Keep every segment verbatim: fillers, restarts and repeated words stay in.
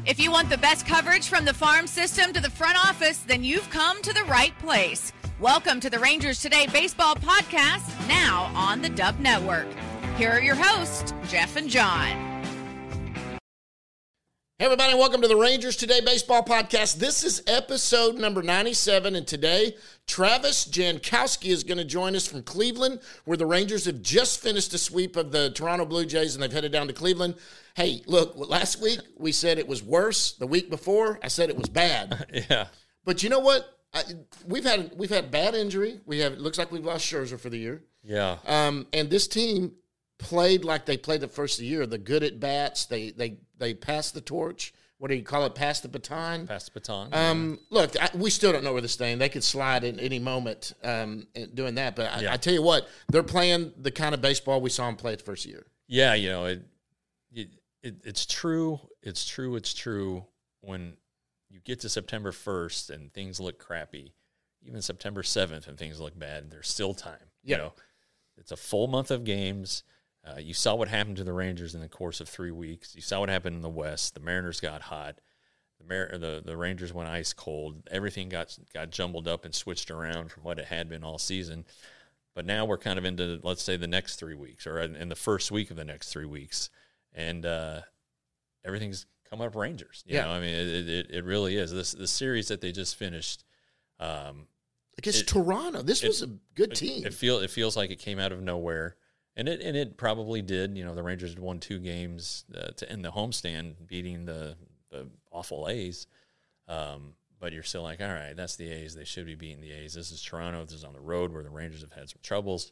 If you want the best coverage from the farm system to the front office, then you've come to the right place. Welcome to the Rangers Today Baseball Podcast, now on the Dub Network. Here are your hosts, Jeff and John. Hey everybody, welcome to the Rangers Today Baseball Podcast. This is episode number ninety-seven, and today Travis Jankowski is going to join us from Cleveland, where the Rangers have just finished a sweep of the Toronto Blue Jays, and they've headed down to Cleveland. Hey, look, last week we said it was worse. The week before, I said it was bad. Yeah. But you know what? I, we've had we've had bad injury. We have. It looks like we've lost Scherzer for the year. Yeah. Um, and this team played like they played the first of the year. The good at bats. They they they passed the torch. What do you call it? Pass the baton. Pass the baton. Um, look, I, we still don't know where this thing. They could slide at any moment um, doing that. But I, yeah. I tell you what, they're playing the kind of baseball we saw them play the first year. Yeah, you know it, it. It it's true. It's true. It's true. When you get to September first and things look crappy, even September seventh and things look bad, there's still time. Yeah. You know, it's a full month of games. Uh, you saw what happened to the Rangers in the course of three weeks. You saw what happened in the West. The Mariners got hot. The Mar- the, the Rangers went ice cold. Everything got got jumbled up and switched around from what it had been all season. But now we're kind of into, let's say, the next three weeks or in, in the first week of the next three weeks. And uh, everything's come up Rangers. You yeah. know, I mean, it, it, it really is. This the series that they just finished. Um, Against it, Toronto. This it, was a good it, team. It, feel, it feels like it came out of nowhere. And it and it probably did. You know, the Rangers had won two games uh, to end the homestand, beating the, the awful A's. Um, but you're still like, all right, that's the A's. They should be beating the A's. This is Toronto. This is on the road where the Rangers have had some troubles.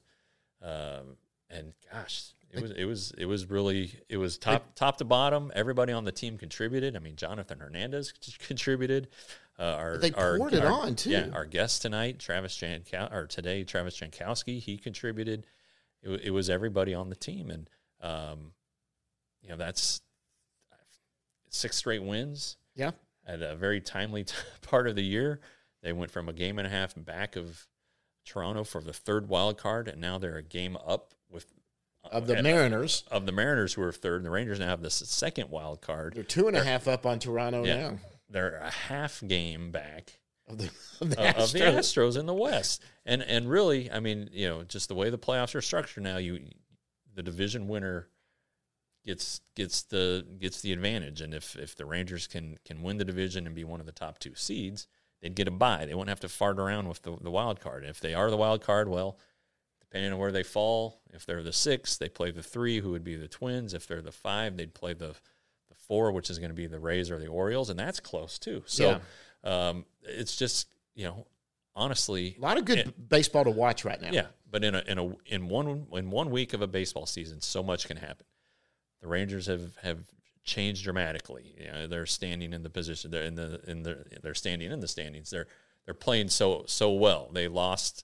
Um, and gosh, it was it was it was really it was top top to bottom. Everybody on the team contributed. I mean, Jonathan Hernandez contributed. Uh, our, they poured our, it our, on too. Yeah, our guest tonight, Travis Jankow, or today, Travis Jankowski, he contributed. It, it was everybody on the team, and um, you know that's six straight wins. Yeah, at a very timely t- part of the year. They went from a game and a half back of Toronto for the third wild card, and now they're a game up with uh, of the at, Mariners. Of the Mariners, who are third, and the Rangers now have the second wild card. They're two and they're, a half up on Toronto yeah, now. They're a half game back. Of the, of, the uh, of the Astros in the West, and and really, I mean, you know, just the way the playoffs are structured now, you the division winner gets gets the gets the advantage, and if if the Rangers can can win the division and be one of the top two seeds, they'd get a bye. They won't have to fart around with the the wild card. If they are the wild card, well, depending on where they fall, if they're the six, they play the three, who would be the Twins. If they're the five, they'd play the the four, which is going to be the Rays or the Orioles, and that's close too. So. Yeah. Um, it's just, you know, honestly, a lot of good it, baseball to watch right now. Yeah, but in a in a in one in one week of a baseball season, so much can happen. The Rangers have, have changed dramatically. You know, they're standing in the position. They're in the in the they're standing in the standings. They're they're playing so so well. They lost,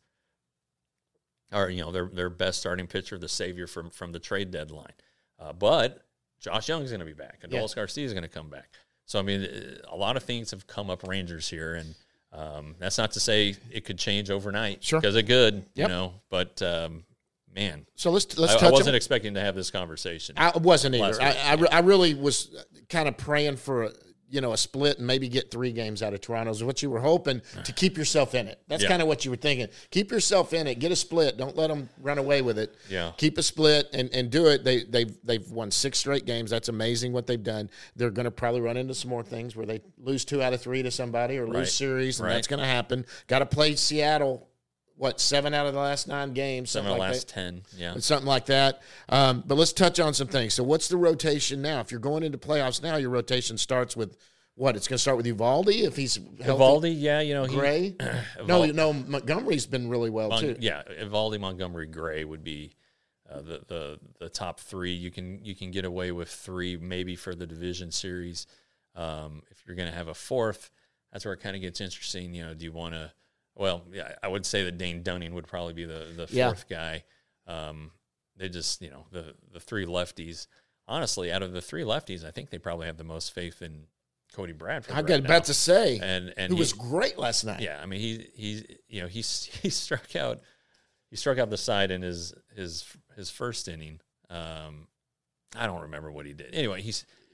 or you know, their their best starting pitcher, the savior from from the trade deadline. Uh, but Josh Young's going to be back, and Adolis yeah. Garcia is going to come back. So, I mean, a lot of things have come up Rangers here, and um, that's not to say it could change overnight. Sure. Because it could, yep. you know, but, um, man. So let's let's I, touch I wasn't on, expecting to have this conversation. I wasn't either. I, I, yeah. I really was kind of praying for, a, you know, a split and maybe get three games out of Toronto is what you were hoping to keep yourself in it. That's yeah. kind of what you were thinking. Keep yourself in it. Get a split. Don't let them run away with it. Yeah. Keep a split and, and do it. They, they've, they've won six straight games. That's amazing what they've done. They're going to probably run into some more things where they lose two out of three to somebody or lose right. series, and right. that's going to happen. Got to play Seattle. What, seven out of the last nine games? Seven out of the like last that. ten, yeah. Something like that. Um, but let's touch on some things. So what's the rotation now? If you're going into playoffs now, your rotation starts with what? It's going to start with Eovaldi if he's healthy. Eovaldi, yeah, you know. He, Gray? no, no, Montgomery's been really well, Mon- too. Yeah, Eovaldi, Montgomery, Gray would be uh, the, the the top three. You can you can get away with three maybe for the division series. Um, if you're going to have a fourth, that's where it kind of gets interesting. You know, do you want to – well, yeah, I would say that Dane Dunning would probably be the, the fourth yeah. guy. Um, they just, you know, the, the three lefties. Honestly, out of the three lefties, I think they probably have the most faith in Cody Bradford. I got right about now. to say, and and who he was great last night. Yeah, I mean he he you know he he struck out he struck out the side in his his his first inning. Um, I don't remember what he did. Anyway, he's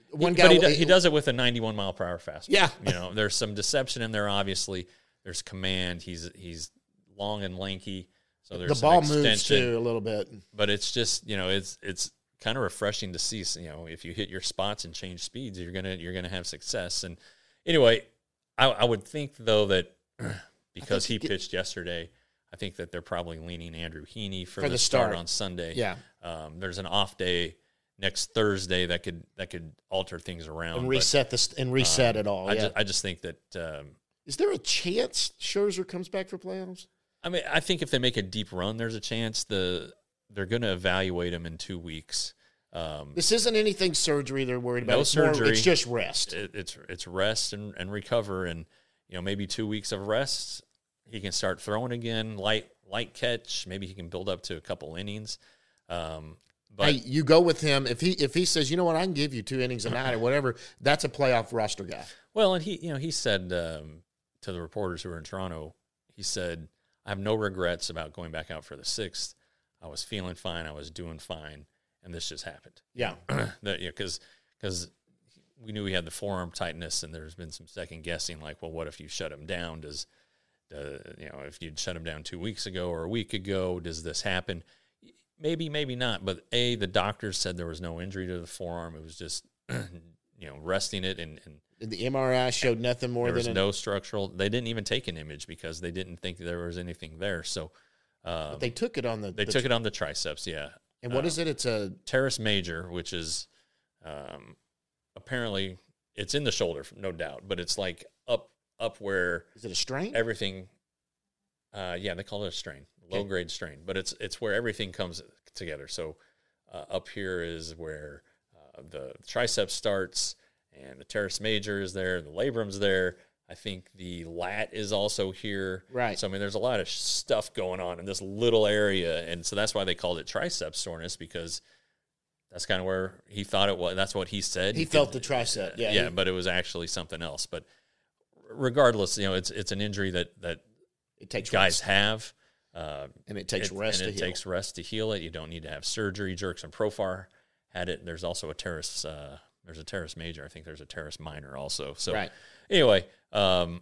one he, guy. But he, do, he does it with a ninety-one mile per hour fastball. Yeah. You know, there's some deception in there. Obviously, there's command. He's he's long and lanky, so there's the some ball extension, moves too a little bit. But it's just, you know, it's it's kind of refreshing to see. You know, if you hit your spots and change speeds, you're gonna you're gonna have success. And anyway, I, I would think though that because he get, pitched yesterday, I think that they're probably leaning Andrew Heaney for, for the, the start. start on Sunday. Yeah, um, there's an off day next Thursday that could that could alter things around and reset this and reset um, it all. I, yeah. just, I just think that. Um, Is there a chance Scherzer comes back for playoffs? I mean, I think if they make a deep run, there's a chance the they're going to evaluate him in two weeks. Um, this isn't anything surgery they're worried about. No it's surgery. More, it's just rest. It, it's it's rest and, and recover, and you know maybe two weeks of rest, he can start throwing again, light light catch. Maybe he can build up to a couple innings. Um, but hey, you go with him if he if he says, you know what, I can give you two innings a night or whatever. That's a playoff roster guy. Well, and he you know he said um, to the reporters who were in Toronto, he said, I have no regrets about going back out for the sixth. I was feeling fine. I was doing fine. And this just happened. Yeah. that, you know, because because we knew he had the forearm tightness, and there's been some second guessing, like, well, what if you shut him down? Does, uh, you know, if you'd shut him down two weeks ago or a week ago, does this happen? Maybe, maybe not. But, A, the doctors said there was no injury to the forearm. It was just, you know, resting it. And, and the M R I showed nothing more there than was an, no structural. They didn't even take an image because they didn't think there was anything there. So um, but they took it on the. They the, took it on the triceps, yeah. And what um, is it? It's a teres major, which is um, apparently it's in the shoulder, no doubt, but it's like up up where is it a strain? Everything, uh, yeah, they call it a strain, low okay. grade strain, but it's it's where everything comes together. So uh, up here is where uh, the triceps starts, and the teres major is there, the labrum's there. I think the lat is also here. Right. So, I mean, there's a lot of stuff going on in this little area. And so that's why they called it tricep soreness, because that's kind of where he thought it was. That's what he said. He, he felt could, the tricep. Yeah. Yeah, he, but it was actually something else. But regardless, you know, it's it's an injury that, that it takes guys rest. have. Uh, and it takes it, rest and to it heal. takes rest to heal it. You don't need to have surgery. Jurickson Profar had it. There's also a teres, uh, there's a teres major. I think there's a teres minor also. So right. Anyway, um,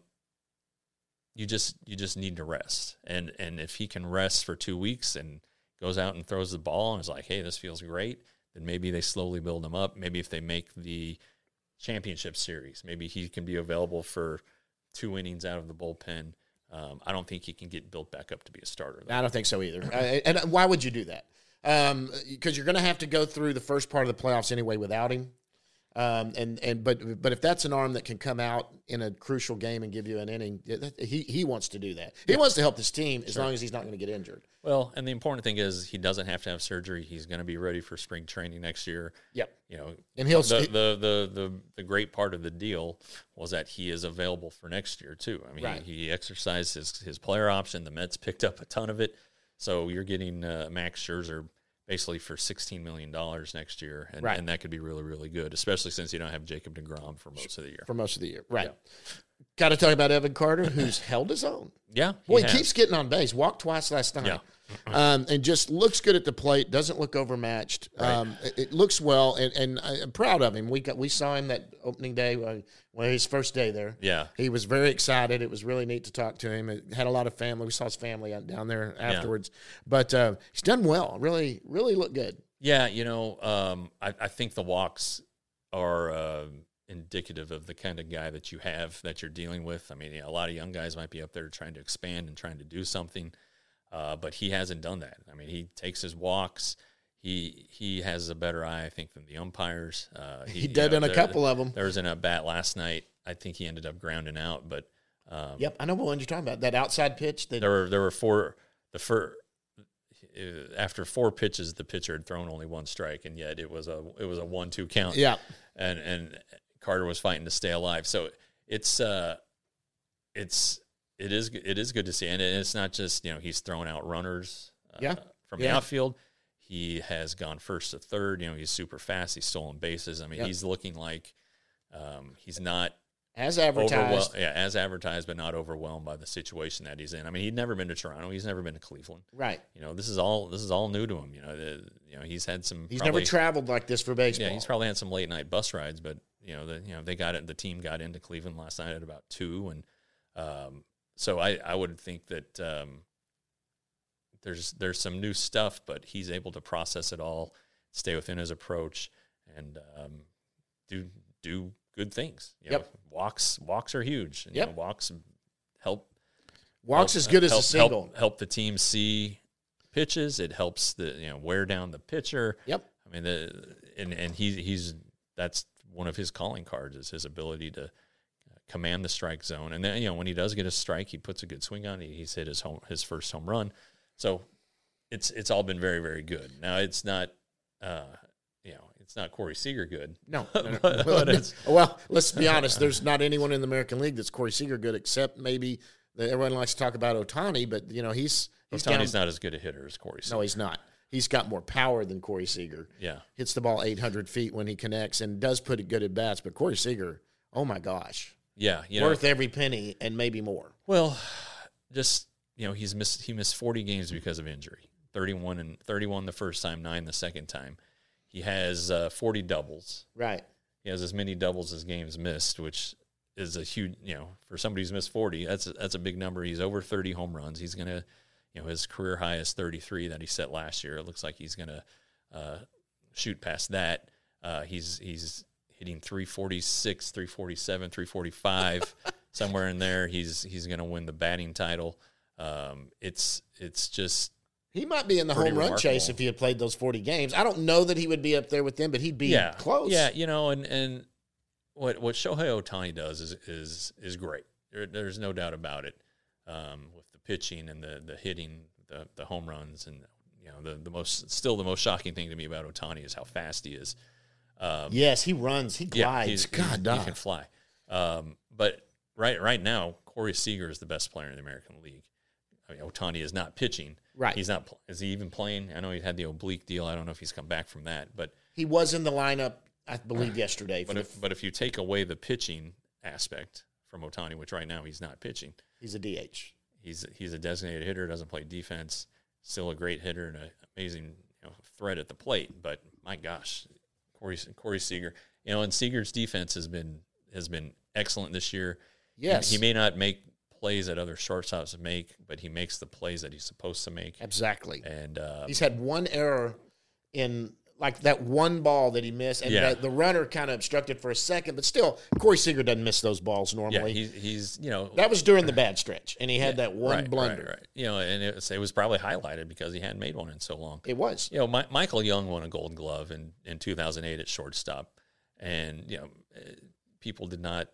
you just you just need to rest, and and if he can rest for two weeks and goes out and throws the ball and is like, hey, this feels great, then maybe they slowly build him up. Maybe if they make the championship series, maybe he can be available for two innings out of the bullpen. Um, I don't think he can get built back up to be a starter, though. I don't think so either. uh, and why would you do that? Um, because you're going to have to go through the first part of the playoffs anyway without him. Um, and, and but but if that's an arm that can come out in a crucial game and give you an inning, he he wants to do that. He yeah. wants to help this team as sure. long as he's not going to get injured. Well, and the important thing is he doesn't have to have surgery. He's going to be ready for spring training next year. Yep. You know, and he'll the the the the, the great part of the deal was that he is available for next year too. I mean, right. he, he exercised his his player option. The Mets picked up a ton of it, so you're getting uh, Max Scherzer basically for sixteen million dollars next year, and, right. and that could be really, really good, especially since you don't have Jacob deGrom for most of the year. For most of the year, right. Yeah. Got to talk about Evan Carter, who's held his own. Yeah. Boy, he, he keeps getting on base. Walked twice last night. Yeah. um, and just looks good at the plate, doesn't look overmatched. Right. Um, it, it looks well, and, and I'm proud of him. We got we saw him that opening day, uh, well, his first day there. Yeah. He was very excited. It was really neat to talk to him. It had a lot of family. We saw his family down there afterwards. Yeah. But uh, he's done well. Really, really looked good. Yeah, you know, um, I, I think the walks are uh, indicative of the kind of guy that you have that you're dealing with. I mean, yeah, a lot of young guys might be up there trying to expand and trying to do something, uh, but he hasn't done that. I mean, he takes his walks. He he has a better eye, I think, than the umpires. Uh, he, he did know, in a there, couple of them. There was in a bat last night. I think he ended up grounding out, but um, yep, I know what one you're talking about. That outside pitch. That there were there were four the first. After four pitches, the pitcher had thrown only one strike, and yet it was a it was a one two count. Yeah, and and Carter was fighting to stay alive. So it's uh, it's it is it is good to see, and it's not just you know he's throwing out runners. Uh, yeah. from yeah. the outfield, he has gone first to third. You know he's super fast. He's stolen bases. I mean yep. he's looking like um, he's not As advertised. Overwhel- yeah, as advertised, but not overwhelmed by the situation that he's in. I mean, he'd never been to Toronto. He's never been to Cleveland. Right. You know, this is all this is all new to him. You know, the, you know, he's had some. He's probably, never traveled like this for baseball. Yeah, he's probably had some late night bus rides, but you know, the you know they got it. The team got into Cleveland last night at about two, and um, so I I would think that um, there's there's some new stuff, but he's able to process it all, stay within his approach, and um, do do. good things. You yep. know, walks walks are huge. And, yep. You know, walks help. Walks help, as good as help, a single. Help, help the team see pitches. It helps the you know wear down the pitcher. Yep. I mean, the and and he he's that's one of his calling cards is his ability to command the strike zone. And then you know when he does get a strike, he puts a good swing on it. He's hit his home his first home run. So it's it's all been very very good. Now it's not. Uh, you know, it's not Corey Seager good. No. no, no. but, well, but it's, well, let's be honest. There's not anyone in the American League that's Corey Seager good, except maybe everyone likes to talk about Ohtani. But you know, he's he's Ohtani's down, not as good a hitter as Corey Seager. No, he's not. He's got more power than Corey Seager. Yeah, hits the ball eight hundred feet when he connects, and does put it good at bats. But Corey Seager, oh my gosh, yeah, you worth know, every penny and maybe more. Well, just you know, he's missed he missed forty games because of injury. thirty-one and thirty-one the first time, nine the second time. He has uh, forty doubles. Right. He has as many doubles as games missed, which is a huge, you know, for somebody who's missed forty, that's a, that's a big number. He's over thirty home runs. He's going to, you know, his career high is thirty-three that he set last year. It looks like he's going to uh, shoot past that. Uh, he's he's hitting three forty-six, three forty-seven, three forty-five, somewhere in there. He's he's going to win the batting title. Um, it's it's just. He might be in the Pretty home run remarkable. chase if he had played those forty games. I don't know that he would be up there with them, but he'd be yeah, close. Yeah, you know, and, and what what Shohei Ohtani does is is is great. There, there's no doubt about it. Um, with the pitching and the the hitting, the the home runs, and you know the the most still the most shocking thing to me about Ohtani is how fast he is. Um, yes, he runs. He yeah, glides. he's, God, he's, dog. he can fly. Um, but right right now, Corey Seager is the best player in the American League. I mean, Ohtani is not pitching. Right. He's not. Is he even playing? I know he had the oblique deal. I don't know if he's come back from that. But he was in the lineup, I believe, yesterday. but if but if you take away the pitching aspect from Ohtani, which right now he's not pitching, he's a D H. He's he's a designated hitter. Doesn't play defense. Still a great hitter and an amazing you know, threat at the plate. But my gosh, Corey Corey Seager. You know, and Seager's defense has been has been excellent this year. Yes, he, he may not make plays that other shortstops make, but he makes the plays that he's supposed to make. Exactly. And um, he's had one error in like that one ball that he missed, and Yeah. the, the runner kind of obstructed for a second, but still, Corey Seager doesn't miss those balls yeah, normally. he's he's you know that was during the bad stretch, and he had yeah, that one right, blunder. Right, right. You know, and it was, it was probably highlighted because he hadn't made one in so long. It was. You know, My, Michael Young won a Gold Glove in, in two thousand eight at shortstop, and you know, eh, people did not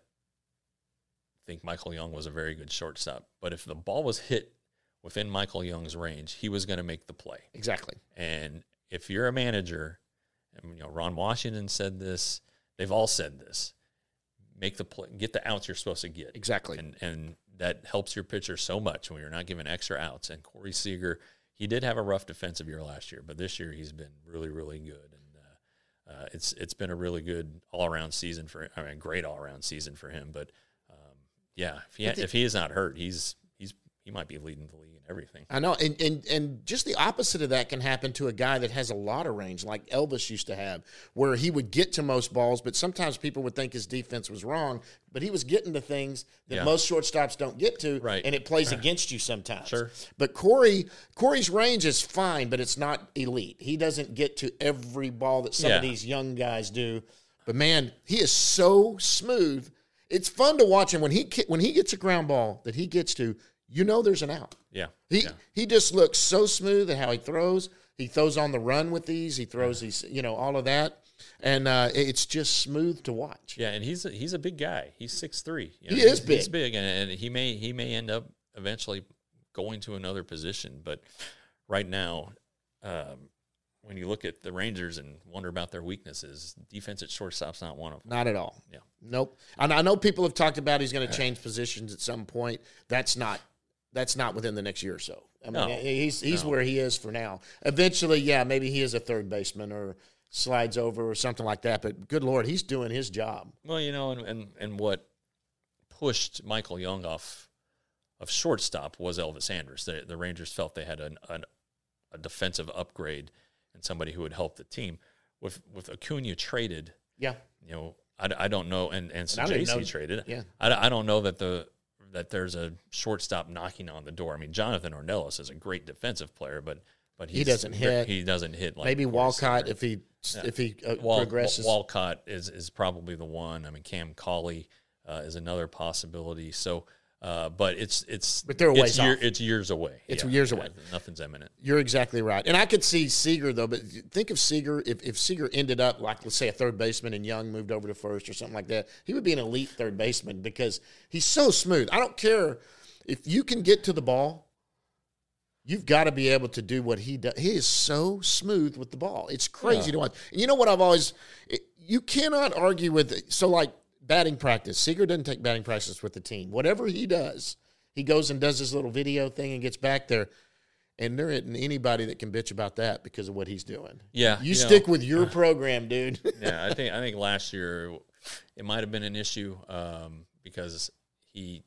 think Michael Young was a very good shortstop. But if the ball was hit within Michael Young's range, he was going to make the play. Exactly. And if you're a manager, and, you know, Ron Washington said this, they've all said this, make the play, get the outs you're supposed to get. Exactly. And and that helps your pitcher so much when you're not giving extra outs. And Corey Seager, he did have a rough defensive year last year, but this year he's been really, really good. And uh, uh, it's it's been a really good all-around season for I mean, great all-around season for him. But um, yeah, if he if he is not hurt, he's he's he might be leading the league in everything. I know, and, and and just the opposite of that can happen to a guy that has a lot of range, like Elvis used to have, where he would get to most balls, but sometimes people would think his defense was wrong, but he was getting to things that Yeah. most shortstops don't get to, Right. and it plays against you sometimes. Sure. But Corey, Corey's range is fine, but it's not elite. He doesn't get to every ball that some of Yeah. these young guys do. But man, he is so smooth. It's fun to watch him when he when he gets a ground ball that he gets to. You know, there's an out. Yeah. He yeah. he just looks so smooth at how he throws. He throws on the run with these. He throws these, you know, all of that, and uh, it's just smooth to watch. Yeah, and he's a, he's a big guy. He's six three. You He know, is he's, He's big. big, and, and he may he may end up eventually going to another position. But right now, um, when you look at the Rangers and wonder about their weaknesses, defense at shortstop's not one of them. Not at all. Yeah. Nope. And I know people have talked about he's going to change positions at some point. That's not that's not within the next year or so. I mean, No. he's he's No. where he is for now. Eventually, yeah, maybe he is a third baseman or slides over or something like that. But good Lord, he's doing his job. Well, you know, and and, and what pushed Michael Young off of shortstop was Elvis Andrus. The, the Rangers felt they had an, an, a defensive upgrade and somebody who would help the team. With with Acuna traded, yeah, you know, I, I don't know, and and so J C traded. Yeah, I, I don't know that the that there's a shortstop knocking on the door. I mean, Jonathan Ornelas is a great defensive player, but but he's, he doesn't hit. He doesn't hit like maybe Walcott if he yeah. if he uh, Wal, progresses. Walcott is is probably the one. I mean, Cam Cauley uh, is another possibility. So. Uh, but it's it's but they're a ways it's, year, off. it's years away. It's yeah. years away. Nothing's imminent. You're exactly right. And I could see Seager though. But think of Seager if if Seager ended up like let's say a third baseman and Young moved over to first or something like that. He would be an elite third baseman because he's so smooth. I don't care if you can get to the ball. You've got to be able to do what he does. He is so smooth with the ball. It's crazy yeah. to watch. And you know what I've always – you cannot argue with – so like batting practice. Seager doesn't take batting practice with the team. Whatever he does, he goes and does his little video thing and gets back there. And there isn't anybody that can bitch about that because of what he's doing. Yeah. You, you stick know, with your program, dude. yeah, I think I think last year it might have been an issue um, because he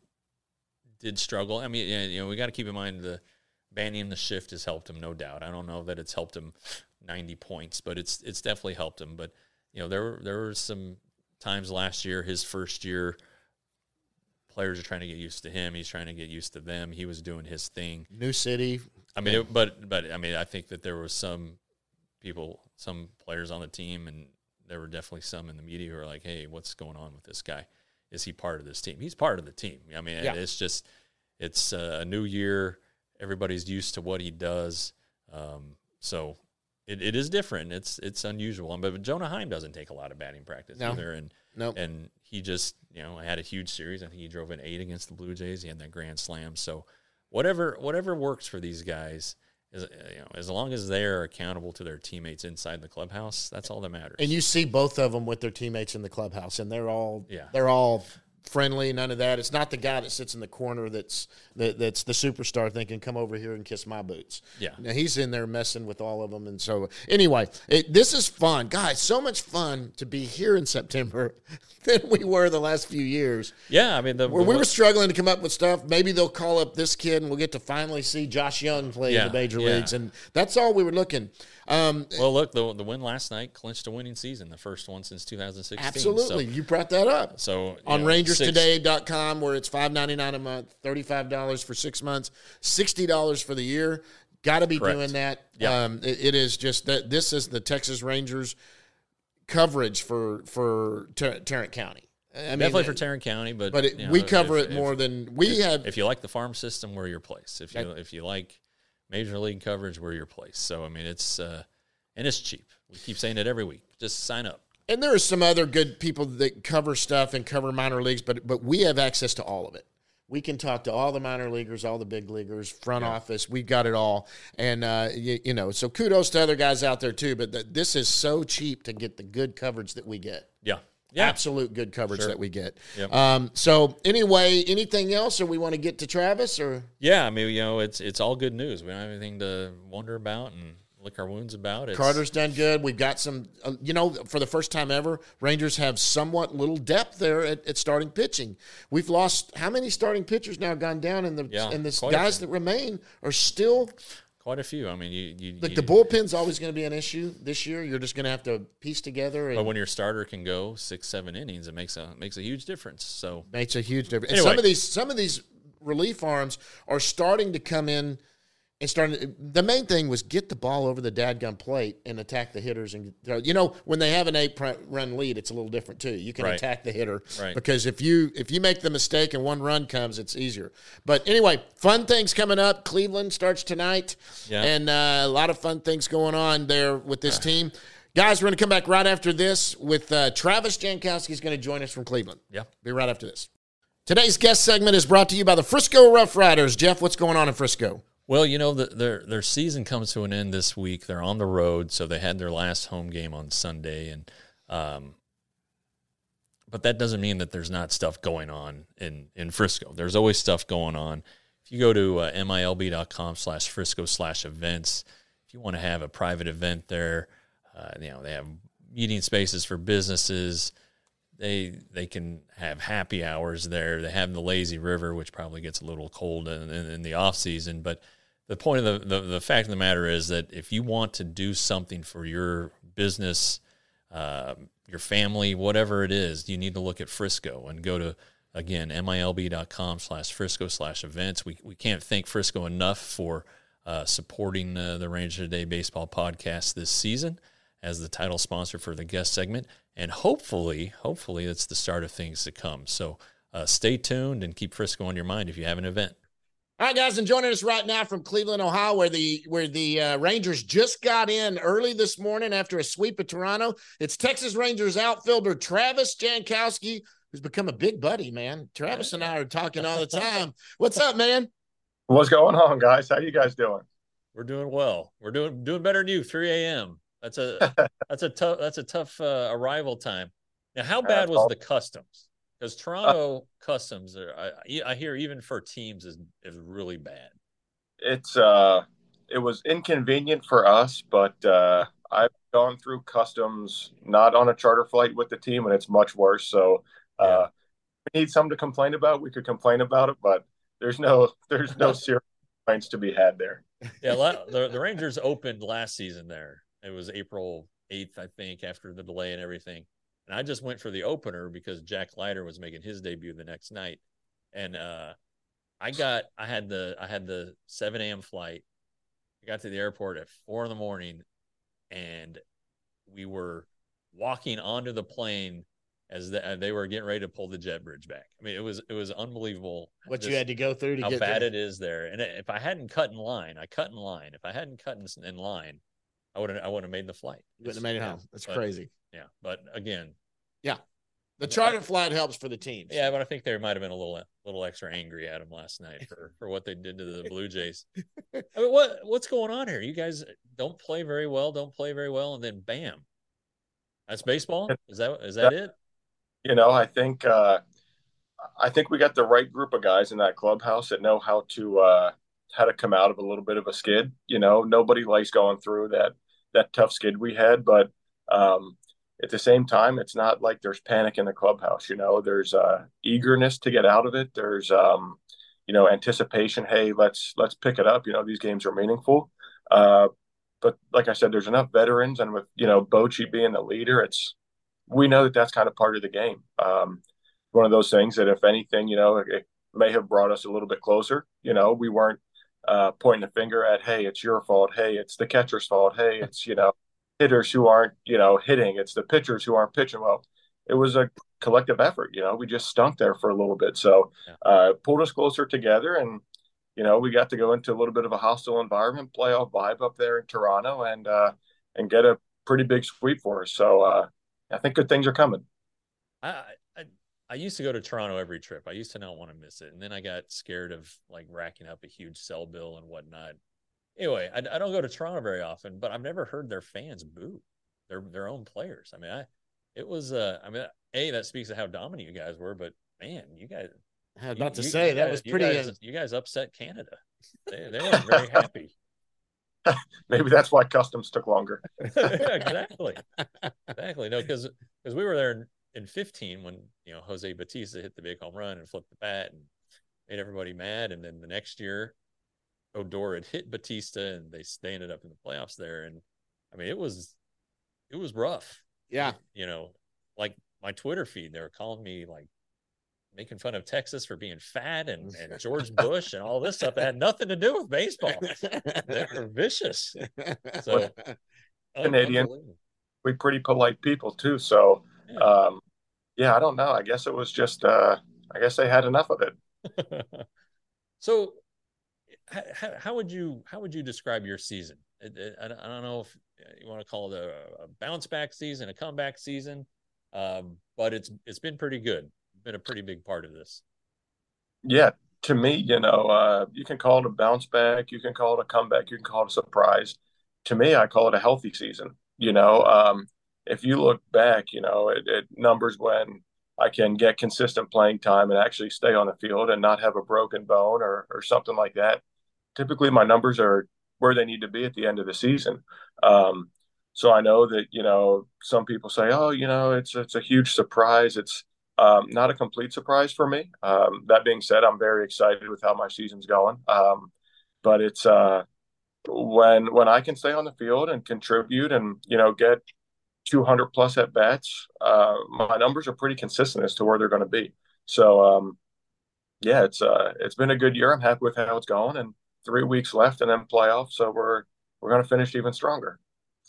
did struggle. I mean, you know, we got to keep in mind the – banning the shift has helped him, no doubt. I don't know that it's helped him ninety points, but it's it's definitely helped him. But you know, there were there were some times last year, his first year, players are trying to get used to him. He's trying to get used to them. He was doing his thing. New city. I mean, it, but but I mean, I think that there was some people, some players on the team, and there were definitely some in the media who are like, "Hey, what's going on with this guy? Is he part of this team?" He's part of the team. I mean, yeah. it's just it's a new year. Everybody's used to what he does, um, so it, it is different. It's it's unusual. But Jonah Heim doesn't take a lot of batting practice no. either, and nope. and he just you know had a huge series. I think he drove an eight against the Blue Jays. He had that grand slam. So whatever whatever works for these guys, is you know as long as they're accountable to their teammates inside the clubhouse, that's all that matters. And you see both of them with their teammates in the clubhouse, and they're all yeah. they're all. friendly, none of that. It's not the guy that sits in the corner that's that, that's the superstar thinking, come over here and kiss my boots. Yeah. Now, he's in there messing with all of them. And so, anyway, it, this is fun. Guys, so much fun to be here in September than we were the last few years. Yeah, I mean, the, Where we were struggling to come up with stuff. Maybe they'll call up this kid and we'll get to finally see Josh Young play yeah, in the major yeah. leagues. And that's all we were looking. Um, well, look, the the win last night clinched a winning season, the first one since two thousand sixteen. Absolutely. So, you brought that up. So on know, Rangers Today dot com, where it's five ninety-nine a month, thirty-five dollars for six months, sixty dollars for the year. Got to be Correct. doing that. Yep. Um, it, it is just that this is the Texas Rangers coverage for for Tar- Tarrant County. I mean, definitely for Tarrant County, but but it, you know, we cover if, it more if, than we if, have. If you like the farm system, we're your place. If you that, if you like major league coverage, we're your place. So I mean, it's uh, and it's cheap. We keep saying it every week. Just sign up. And there are some other good people that cover stuff and cover minor leagues, but but we have access to all of it. We can talk to all the minor leaguers, all the big leaguers, front yeah. office. We've got it all. And, uh, you, you know, so kudos to other guys out there, too. But the, this is so cheap to get the good coverage that we get. Yeah. Yeah. Absolute good coverage sure. that we get. Yep. Um, so, anyway, anything else, or we want to get to Travis? Or Yeah, I mean, you know, it's it's all good news. We don't have anything to wonder about and lick our wounds about. It's, Carter's done good. We've got some, uh, you know, for the first time ever, Rangers have somewhat little depth there at, at starting pitching. We've lost how many starting pitchers now gone down, and the yeah, and the guys that remain are still quite a few. I mean, you, you like you, the bullpen's always going to be an issue this year. You're just going to have to piece together. And but when your starter can go six, seven innings, it makes a makes a huge difference. So makes a huge difference. Anyway. And some of these some of these relief arms are starting to come in. And starting, the main thing was get the ball over the dadgum plate and attack the hitters. And you know, when they have an eight-run lead, it's a little different too. You can right. attack the hitter right. because if you if you make the mistake and one run comes, it's easier. But anyway, fun things coming up. Cleveland starts tonight, yeah. and uh, a lot of fun things going on there with this team. Guys, we're going to come back right after this with uh, Travis Jankowski is going to join us from Cleveland. Yeah, be right after this. Today's guest segment is brought to you by the Frisco Rough Riders. Jeff, what's going on in Frisco? Well, you know, the, their their season comes to an end this week. They're on the road, so they had their last home game on Sunday, and um, but that doesn't mean that there's not stuff going on in, in Frisco. There's always stuff going on. If you go to uh, M I L B dot com slash Frisco slash events, if you want to have a private event there, uh, you know, they have meeting spaces for businesses, they they can have happy hours there. They have the lazy river, which probably gets a little cold in, in, in the off season. But the point of the, the the fact of the matter is that if you want to do something for your business, uh, your family, whatever it is, you need to look at Frisco and go to, again, milb.com slash Frisco slash events. We we can't thank Frisco enough for uh, supporting uh, the Ranger Today Baseball podcast this season as the title sponsor for the guest segment. And hopefully, hopefully it's the start of things to come. So uh, stay tuned and keep Frisco on your mind if you have an event. All right, guys, and joining us right now from Cleveland, Ohio, where the where the uh, Rangers just got in early this morning after a sweep of Toronto. It's Texas Rangers outfielder Travis Jankowski, who's become a big buddy, man. Travis and I are talking all the time. What's up, man? What's going on, guys? How you guys doing? We're doing well. We're doing doing better than you. three a.m. That's a that's a tough that's a tough uh, arrival time. Now, how bad was the customs? Because Toronto uh, customs, are, I, I hear even for teams is is really bad. It's uh, it was inconvenient for us, but uh, I've gone through customs not on a charter flight with the team, and it's much worse. So uh, yeah. we need something to complain about. We could complain about it, but there's no there's no serious complaints to be had there. Yeah, the the Rangers opened last season there. It was April eighth, I think, after the delay and everything. And I just went for the opener because Jack Leiter was making his debut the next night. And uh, I got, I had the, I had the seven a.m. flight. I got to the airport at four in the morning, and we were walking onto the plane as the, they were getting ready to pull the jet bridge back. I mean, it was, it was unbelievable. What just you had to go through to how get bad there. it is there. And if I hadn't cut in line, I cut in line. If I hadn't cut in, in line, I wouldn't, I wouldn't have made the flight. You wouldn't have made it yeah, home. That's but, crazy. Yeah. But again, yeah, the charter flight helps for the teams. Yeah, but I think they might have been a little, little extra angry at him last night for, for what they did to the Blue Jays. I mean, what, what's going on here? You guys don't play very well, don't play very well, and then bam, that's baseball. Is that, is that it? You know, I think, uh, I think we got the right group of guys in that clubhouse that know how to, uh, how to come out of a little bit of a skid. You know, nobody likes going through that, that tough skid we had, but, um, at the same time, it's not like there's panic in the clubhouse. You know, there's uh, eagerness to get out of it. There's, um, you know, anticipation. Hey, let's let's pick it up. You know, these games are meaningful. Uh, but like I said, there's enough veterans, and with you know Bochy being the leader, it's we know that that's kind of part of the game. Um, one of those things that, if anything, you know, it, it may have brought us a little bit closer. You know, we weren't uh, pointing the finger at, hey, it's your fault. Hey, it's the catcher's fault. Hey, it's you know. hitters who aren't, you know, hitting. It's the pitchers who aren't pitching well. It was a collective effort. You know, we just stunk there for a little bit. So uh, pulled us closer together, and, you know, we got to go into a little bit of a hostile environment, playoff vibe up there in Toronto, and uh, and get a pretty big sweep for us. So uh, I think good things are coming. I, I I used to go to Toronto every trip. I used to not want to miss it. And then I got scared of like racking up a huge cell bill and whatnot. Anyway, I, I don't go to Toronto very often, but I've never heard their fans boo their their own players. I mean, I it was uh, I mean, a that speaks to how dominant you guys were, but man, you guys. I was about to you, say you that guys, was pretty. You guys, uh, you guys upset Canada. They they weren't very happy. Maybe that's why customs took longer. exactly, exactly. No, because because we were there in, in fifteen when you know Jose Bautista hit the big home run and flipped the bat and made everybody mad, and then the next year. Odor had hit Bautista, and they, they ended up in the playoffs there. And I mean, it was, it was rough. Yeah. You know, like my Twitter feed, they were calling me like making fun of Texas for being fat and, and George Bush and all this stuff that had nothing to do with baseball. They were vicious. So Canadian, we pretty polite people too. So, yeah. Um, yeah, I don't know. I guess it was just, uh, I guess they had enough of it. So, How, how would you how would you describe your season? It, it, I don't know if you want to call it a, a bounce back season, a comeback season, um, but it's it's been pretty good. Been a pretty big part of this. Yeah, to me, you know, uh, you can call it a bounce back, you can call it a comeback, you can call it a surprise. To me, I call it a healthy season. You know, um, if you look back, you know, it, it numbers when I can get consistent playing time and actually stay on the field and not have a broken bone or or something like that. Typically my numbers are where they need to be at the end of the season. Um, So I know that, you know, some people say, oh, you know, it's it's a huge surprise. It's um, not a complete surprise for me. Um, that being said, I'm very excited with how my season's going. Um, but it's uh, when when I can stay on the field and contribute and, you know, get two hundred plus at bats, uh, my numbers are pretty consistent as to where they're going to be. So um, yeah, it's uh, it's been a good year. I'm happy with how it's going, and three weeks left, and then playoffs. So we're we're going to finish even stronger.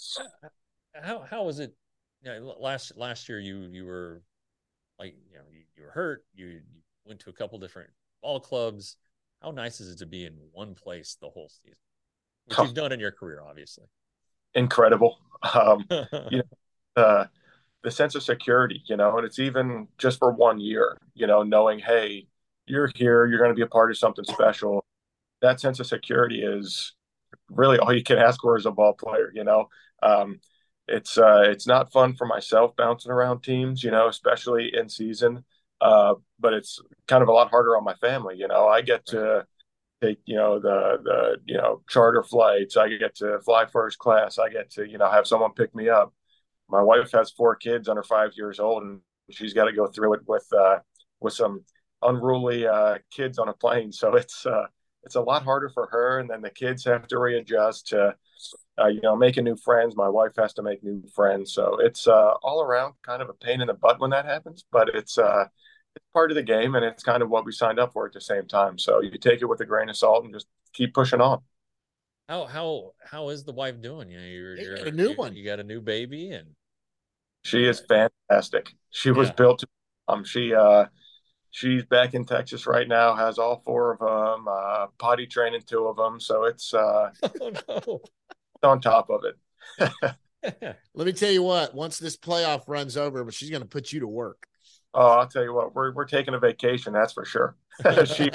How how was it? You know, last last year you you were like you know you, you were hurt. You, you went to a couple different ball clubs. How nice is it to be in one place the whole season, which you've done in your career, obviously? Incredible. Um, you know, uh, the sense of security, you know, and it's even just for one year, you know, knowing, hey, you're here, you're going to be a part of something special. That sense of security is really all you can ask for as a ball player, you know. Um, it's uh, it's not fun for myself bouncing around teams, you know, especially in season. Uh, but it's kind of a lot harder on my family, you know. I get to take, you know, the the you know charter flights. I get to fly first class. I get to, you know, have someone pick me up. My wife has four kids under five years old, and she's got to go through it with uh, with some unruly uh, kids on a plane. So it's uh, it's a lot harder for her, and then the kids have to readjust to uh, you know making new friends. My wife has to make new friends, so it's uh, all around kind of a pain in the butt when that happens. But it's uh, it's part of the game, and it's kind of what we signed up for at the same time. So you take it with a grain of salt and just keep pushing on. How how how is the wife doing? You know, you're, You you're got a new you, one. You got a new baby, and She is fantastic. She was yeah. built to, um she uh she's back in Texas right now, has all four of them, uh potty training two of them, so it's uh Oh no. on top of it. Let me tell you what, once this playoff runs over, but she's going to put you to work. Oh, I'll tell you what, we're we're taking a vacation, that's for sure. She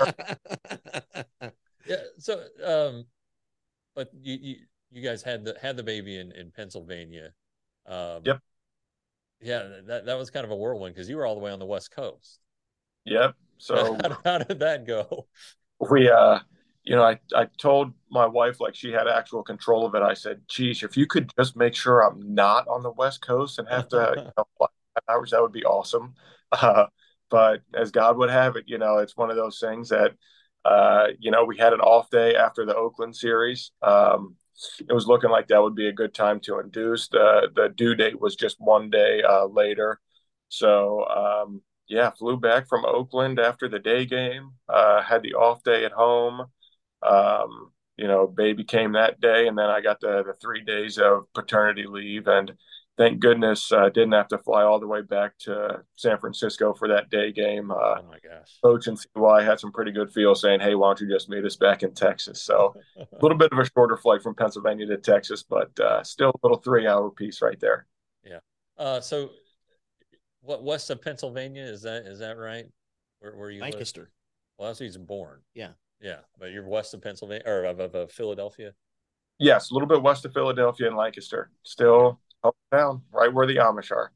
Yeah, so um but you, you you guys had the had the baby in in Pennsylvania. Um Yep. Yeah, that that was kind of a whirlwind because you were all the way on the West Coast. Yep. So how, how did that go? we uh you know, I, I told my wife, like, she had actual control of it. I said, geez, if you could just make sure I'm not on the West Coast and have to, you know, fly hours, that would be awesome. Uh, but as God would have it, you know, it's one of those things that, uh, you know, we had an off day after the Oakland series. Um, it was looking like that would be a good time to induce. The, the due date was just one day uh, later. So, um, yeah, flew back from Oakland after the day game, uh, had the off day at home. Um, you know, baby came that day, and then I got the the three days of paternity leave, and thank goodness I uh, didn't have to fly all the way back to San Francisco for that day game. Uh, Oh my gosh. Coach and C Y had some pretty good feel saying, "Hey, why don't you just meet us back in Texas?" So a little bit of a shorter flight from Pennsylvania to Texas, but uh, still a little three hour piece right there. Yeah. Uh, so, what west of Pennsylvania is that? Is that right? Where where you Lancaster. live? Well, that's where he's born. Yeah. Yeah, but you're west of Pennsylvania or of, of, of Philadelphia. Yes, a little bit west of Philadelphia and Lancaster. Still down right where the Amish are.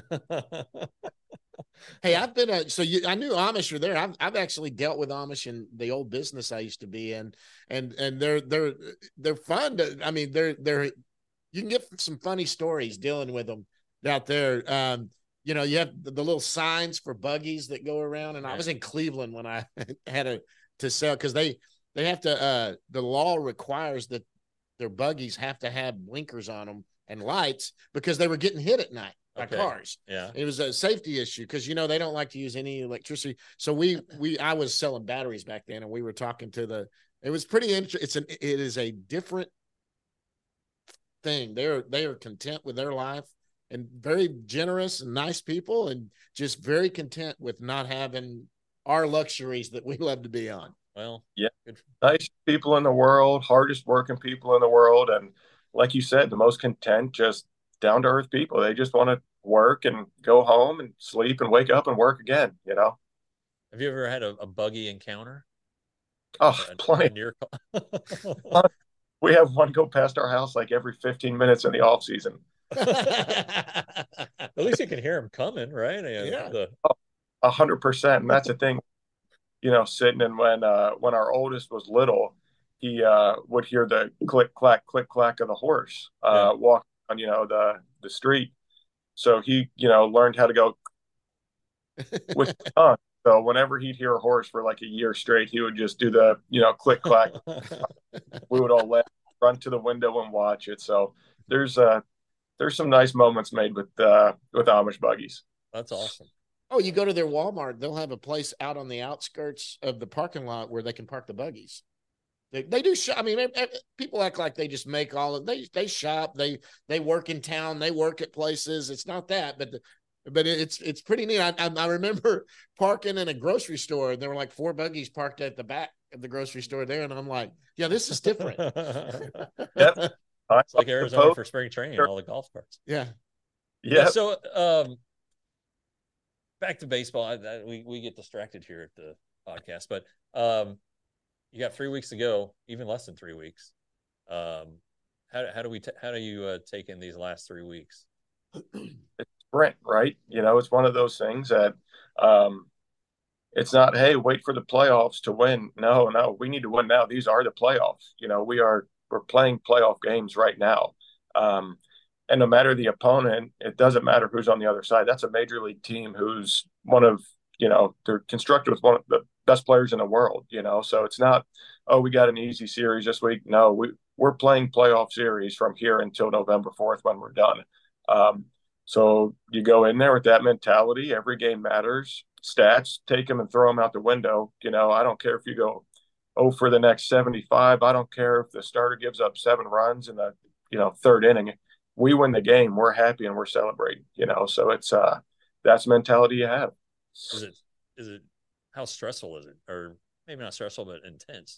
Hey, I've been a so you, I knew Amish were there. I've I've actually dealt with Amish in the old business I used to be in, and and they're they're they're fun. To, I mean, they're they're you can get some funny stories dealing with them out there. Um, you know, you have the, the little signs for buggies that go around, and I was in Cleveland when I had a to sell because they they have to. Uh, the law requires that their buggies have to have blinkers on them and lights because they were getting hit at night by Okay. cars. Yeah. It was a safety issue because, you know, they don't like to use any electricity. So we, we, I was selling batteries back then, and we were talking to the, it was pretty interesting. It's an, it is a different thing. They're, they are content with their life and very generous and nice people and just very content with not having our luxuries that we love to be on. Well, yeah, good. Nice people in the world, hardest working people in the world. And like you said, the most content, just down to earth people. They just want to work and go home and sleep and wake up and work again, you know? Have you ever had a, a buggy encounter? Oh, A, plenty. a near... We have one go past our house like every fifteen minutes in the off season. At least you can hear them coming, right? Yeah. The... A hundred percent. And that's the thing, you know, sitting and when, uh, when our oldest was little, he, uh, would hear the click, clack, click, clack of the horse, uh, Yeah. walk on, you know, the the street. So he, you know, learned how to go with his tongue. So whenever he'd hear a horse for like a year straight, he would just do the, you know, click clack. We would all let run to the window and watch it. So there's uh there's some nice moments made with uh with Amish buggies. That's awesome. Oh, you go to their Walmart, they'll have a place out on the outskirts of the parking lot where they can park the buggies. They, they do shop. I mean, people act like they just make all of they they shop. They they work in town. They work at places. It's not that, but the, but it's it's pretty neat. I, I I remember parking in a grocery store, and there were like four buggies parked at the back of the grocery store there, and I'm like, yeah, this is different. Yep. It's like Arizona for spring training, all the golf carts. Yeah. Yeah. Yeah. So, um, back to baseball. I, I, we we get distracted here at the podcast, but um, you got three weeks to go, even less than three weeks. Um, how how do we t- how do you uh, take in these last three weeks? It's sprint, right? You know, it's one of those things that um, it's not, hey, wait for the playoffs to win. No, no, we need to win now. These are the playoffs. You know, we are we're playing playoff games right now. Um, and no matter the opponent, it doesn't matter who's on the other side. That's a major league team who's one of, you know, they're constructed with one of the best players in the world, you know. So it's not, oh, we got an easy series this week. No, we, we're playing playoff series from here until November fourth when we're done. Um, so you go in there with that mentality. Every game matters. Stats, take them and throw them out the window. You know, I don't care if you go oh for the next seventy-five. I don't care if the starter gives up seven runs in the, you know, third inning. We win the game. We're happy and we're celebrating, you know. So it's uh that's the mentality you have. Is it is it how stressful is it? Or maybe not stressful, but intense?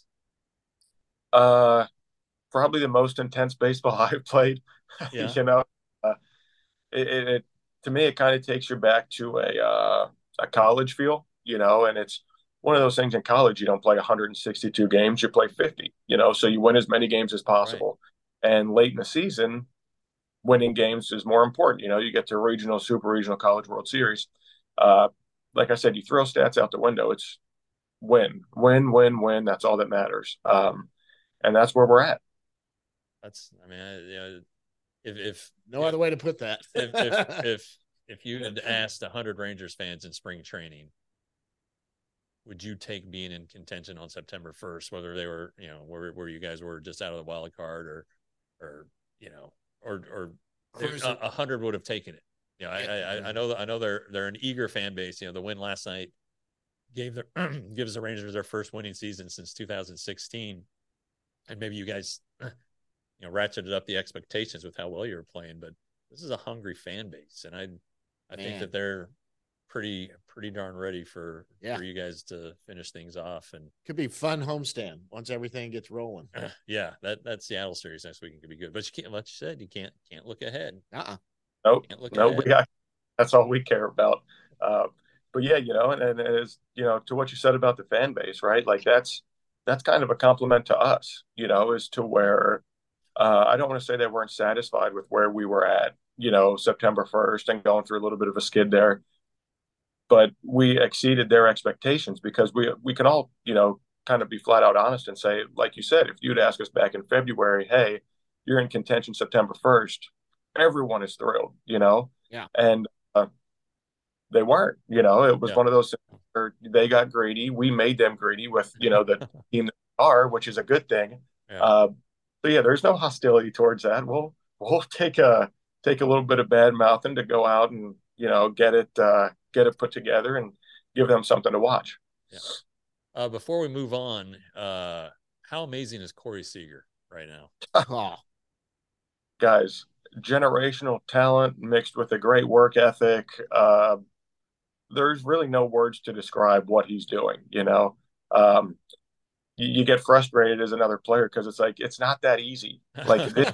Uh probably the most intense baseball I've played. Yeah. You know, uh, it, it, it to me it kind of takes you back to a uh, a college feel, you know, and it's one of those things in college. You don't play one hundred sixty-two games, you play fifty, you know, so you win as many games as possible. Right. And late in the season, winning games is more important. You know, you get to regional, super regional, college World Series. Uh, like I said, you throw stats out the window. It's win, win, win, win. That's all that matters. Um, and that's where we're at. That's, I mean, I, you know, if, if no other know, way to put that, if, if, if, if you had asked a hundred Rangers fans in spring training, would you take being in contention on September first, whether they were, you know, where, where you guys were just out of the wild card or, or, you know, or, or a, a hundred would have taken it. You know, I, I, I know that I know they're, they're an eager fan base. You know, the win last night gave their, gives the Rangers their first winning season since two thousand sixteen. And maybe you guys, you know, ratcheted up the expectations with how well you were playing, but this is a hungry fan base. And I, I Man. think that they're pretty, pretty darn ready for, yeah. for you guys to finish things off. And could be fun homestand once everything gets rolling. Yeah. That, that Seattle series next week could be good, but you can't, like you said, you can't, can't look ahead. Uh-uh. Nope. No, we got, that's all we care about. Uh, but yeah, you know, and, and as, you know, to what you said about the fan base, right? Like that's, that's kind of a compliment to us, you know, as to where, uh, I don't want to say they weren't satisfied with where we were at, you know, September first and going through a little bit of a skid there, but we exceeded their expectations because we, we can all, you know, kind of be flat out honest and say, like you said, if you'd ask us back in February, hey, you're in contention September first, everyone is thrilled, you know? Yeah. And uh, they weren't, you know, it was yeah. one of those things where they got greedy. We made them greedy with, you know, the team that they are, which is a good thing. Yeah. Uh, so yeah, there's no hostility towards that. We'll, we'll take a, take a little bit of bad mouthing to go out and, you know, get it, uh, get it put together and give them something to watch. Yeah. Uh, before we move on, uh, how amazing is Corey Seager right now? Oh. Guys, generational talent mixed with a great work ethic. Uh, there's really no words to describe what he's doing. You know, um, you, you get frustrated as another player because it's like it's not that easy. Like, this,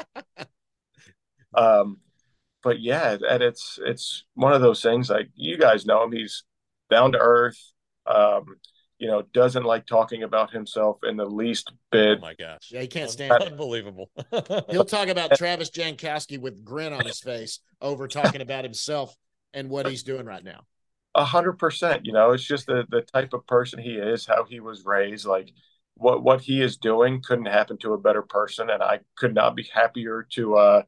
um, but yeah, and it's it's one of those things. Like you guys know him, he's down to earth. Um, you know, doesn't like talking about himself in the least bit. Oh my gosh. Yeah, he can't stand it. Unbelievable. He'll talk about Travis Jankowski with grin on his face over talking about himself and what he's doing right now. A hundred percent. You know, it's just the, the type of person he is, how he was raised. Like what, what he is doing couldn't happen to a better person. And I could not be happier to, uh,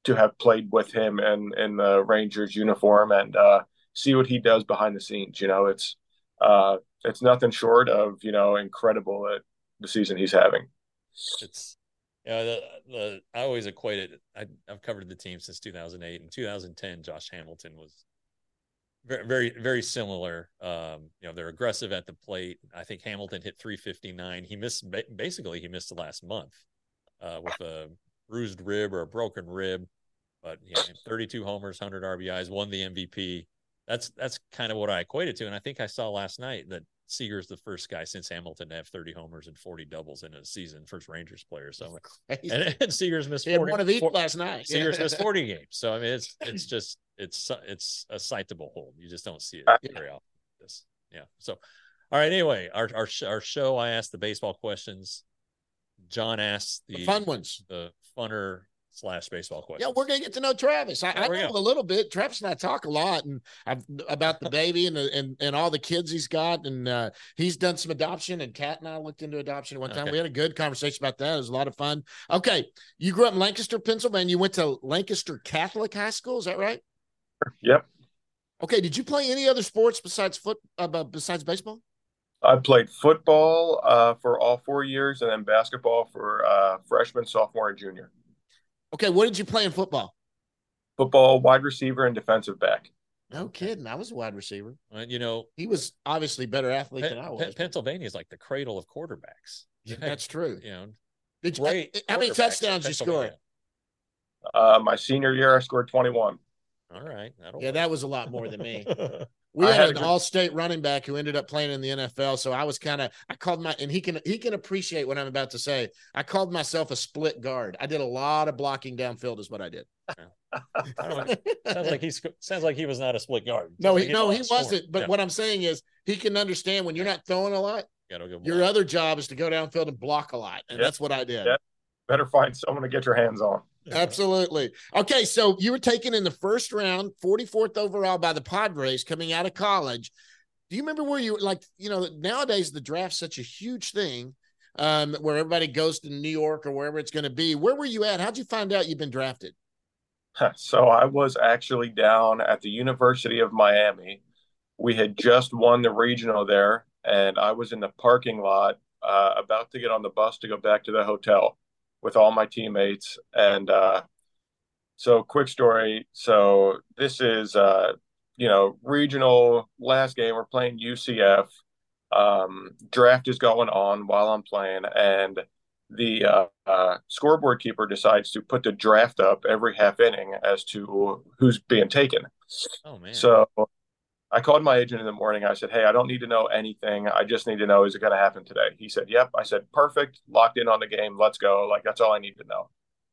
to have played with him in in the Rangers uniform and uh, see what he does behind the scenes. You know, it's uh, it's nothing short of you know incredible at the season he's having. It's yeah. The, the I always equate it. I, I've covered the team since two thousand eight. In two thousand ten, Josh Hamilton was very, very, very similar. Um, you know, they're aggressive at the plate. I think Hamilton hit three fifty-nine. He missed basically he missed the last month uh, with a bruised rib or a broken rib, but yeah, thirty-two homers, one hundred R B Is, won the M V P. That's that's kind of what I equated to, and I think I saw last night that Seager's the first guy since Hamilton to have thirty homers and forty doubles in a season, first Rangers player. So, and, and Seager's missed forty. One of each forty, last night. Seager's missed forty games. So I mean, it's it's just it's it's a sight to behold. You just don't see it very often. This, yeah. So, all right. Anyway, our our our show. I asked the baseball questions. John asked the, the fun ones, the funner slash baseball questions. Yeah, we're gonna get to know Travis. I, I know a little bit. Travis and I talk a lot, and I've about the baby and and and all the kids he's got, and uh, he's done some adoption. And Kat and I looked into adoption one time. Okay. We had a good conversation about that. It was a lot of fun. Okay, you grew up in Lancaster, Pennsylvania. You went to Lancaster Catholic High School. Is that right? Yep. Okay. Did you play any other sports besides foot uh, besides baseball? I played football uh, for all four years, and then basketball for uh, freshman, sophomore, and junior. Okay, what did you play in football? Football, wide receiver, and defensive back. No kidding. I was a wide receiver. Uh, you know, he was obviously a better athlete Pe- than I was. Pennsylvania is like the cradle of quarterbacks. Yeah, that's true. You know, did you, how many touchdowns you score? Uh, my senior year, I scored twenty-one. All right. Yeah, work. That was a lot more than me. We had, had an all-state running back who ended up playing in the N F L. So I was kind of, I called my, and he can, he can appreciate what I'm about to say. I called myself a split guard. I did a lot of blocking downfield is what I did. I don't know. Sounds like he sounds like he was not a split guard. No, he, like no, he wasn't. But yeah. What I'm saying is he can understand when you're not throwing a lot, you gotta go your other job is to go downfield and block a lot. And yep. That's what I did. Yep. Better find someone to get your hands on. Absolutely. Okay, so you were taken in the first round, forty-fourth overall by the Padres coming out of college. Do you remember where you, like, you know, nowadays the draft's such a huge thing um, where everybody goes to New York or wherever it's going to be. Where were you at? How'd you find out you've been drafted? So I was actually down at the University of Miami. We had just won the regional there, and I was in the parking lot uh, about to get on the bus to go back to the hotel with all my teammates. And uh, so quick story. So this is, uh, you know, regional last game. We're playing U C F. Um, draft is going on while I'm playing. And the uh, uh, scoreboard keeper decides to put the draft up every half inning as to who's being taken. Oh, man. So I called my agent in the morning. I said, hey, I don't need to know anything. I just need to know, is it going to happen today? He said, yep. I said, perfect. Locked in on the game. Let's go. Like, that's all I need to know.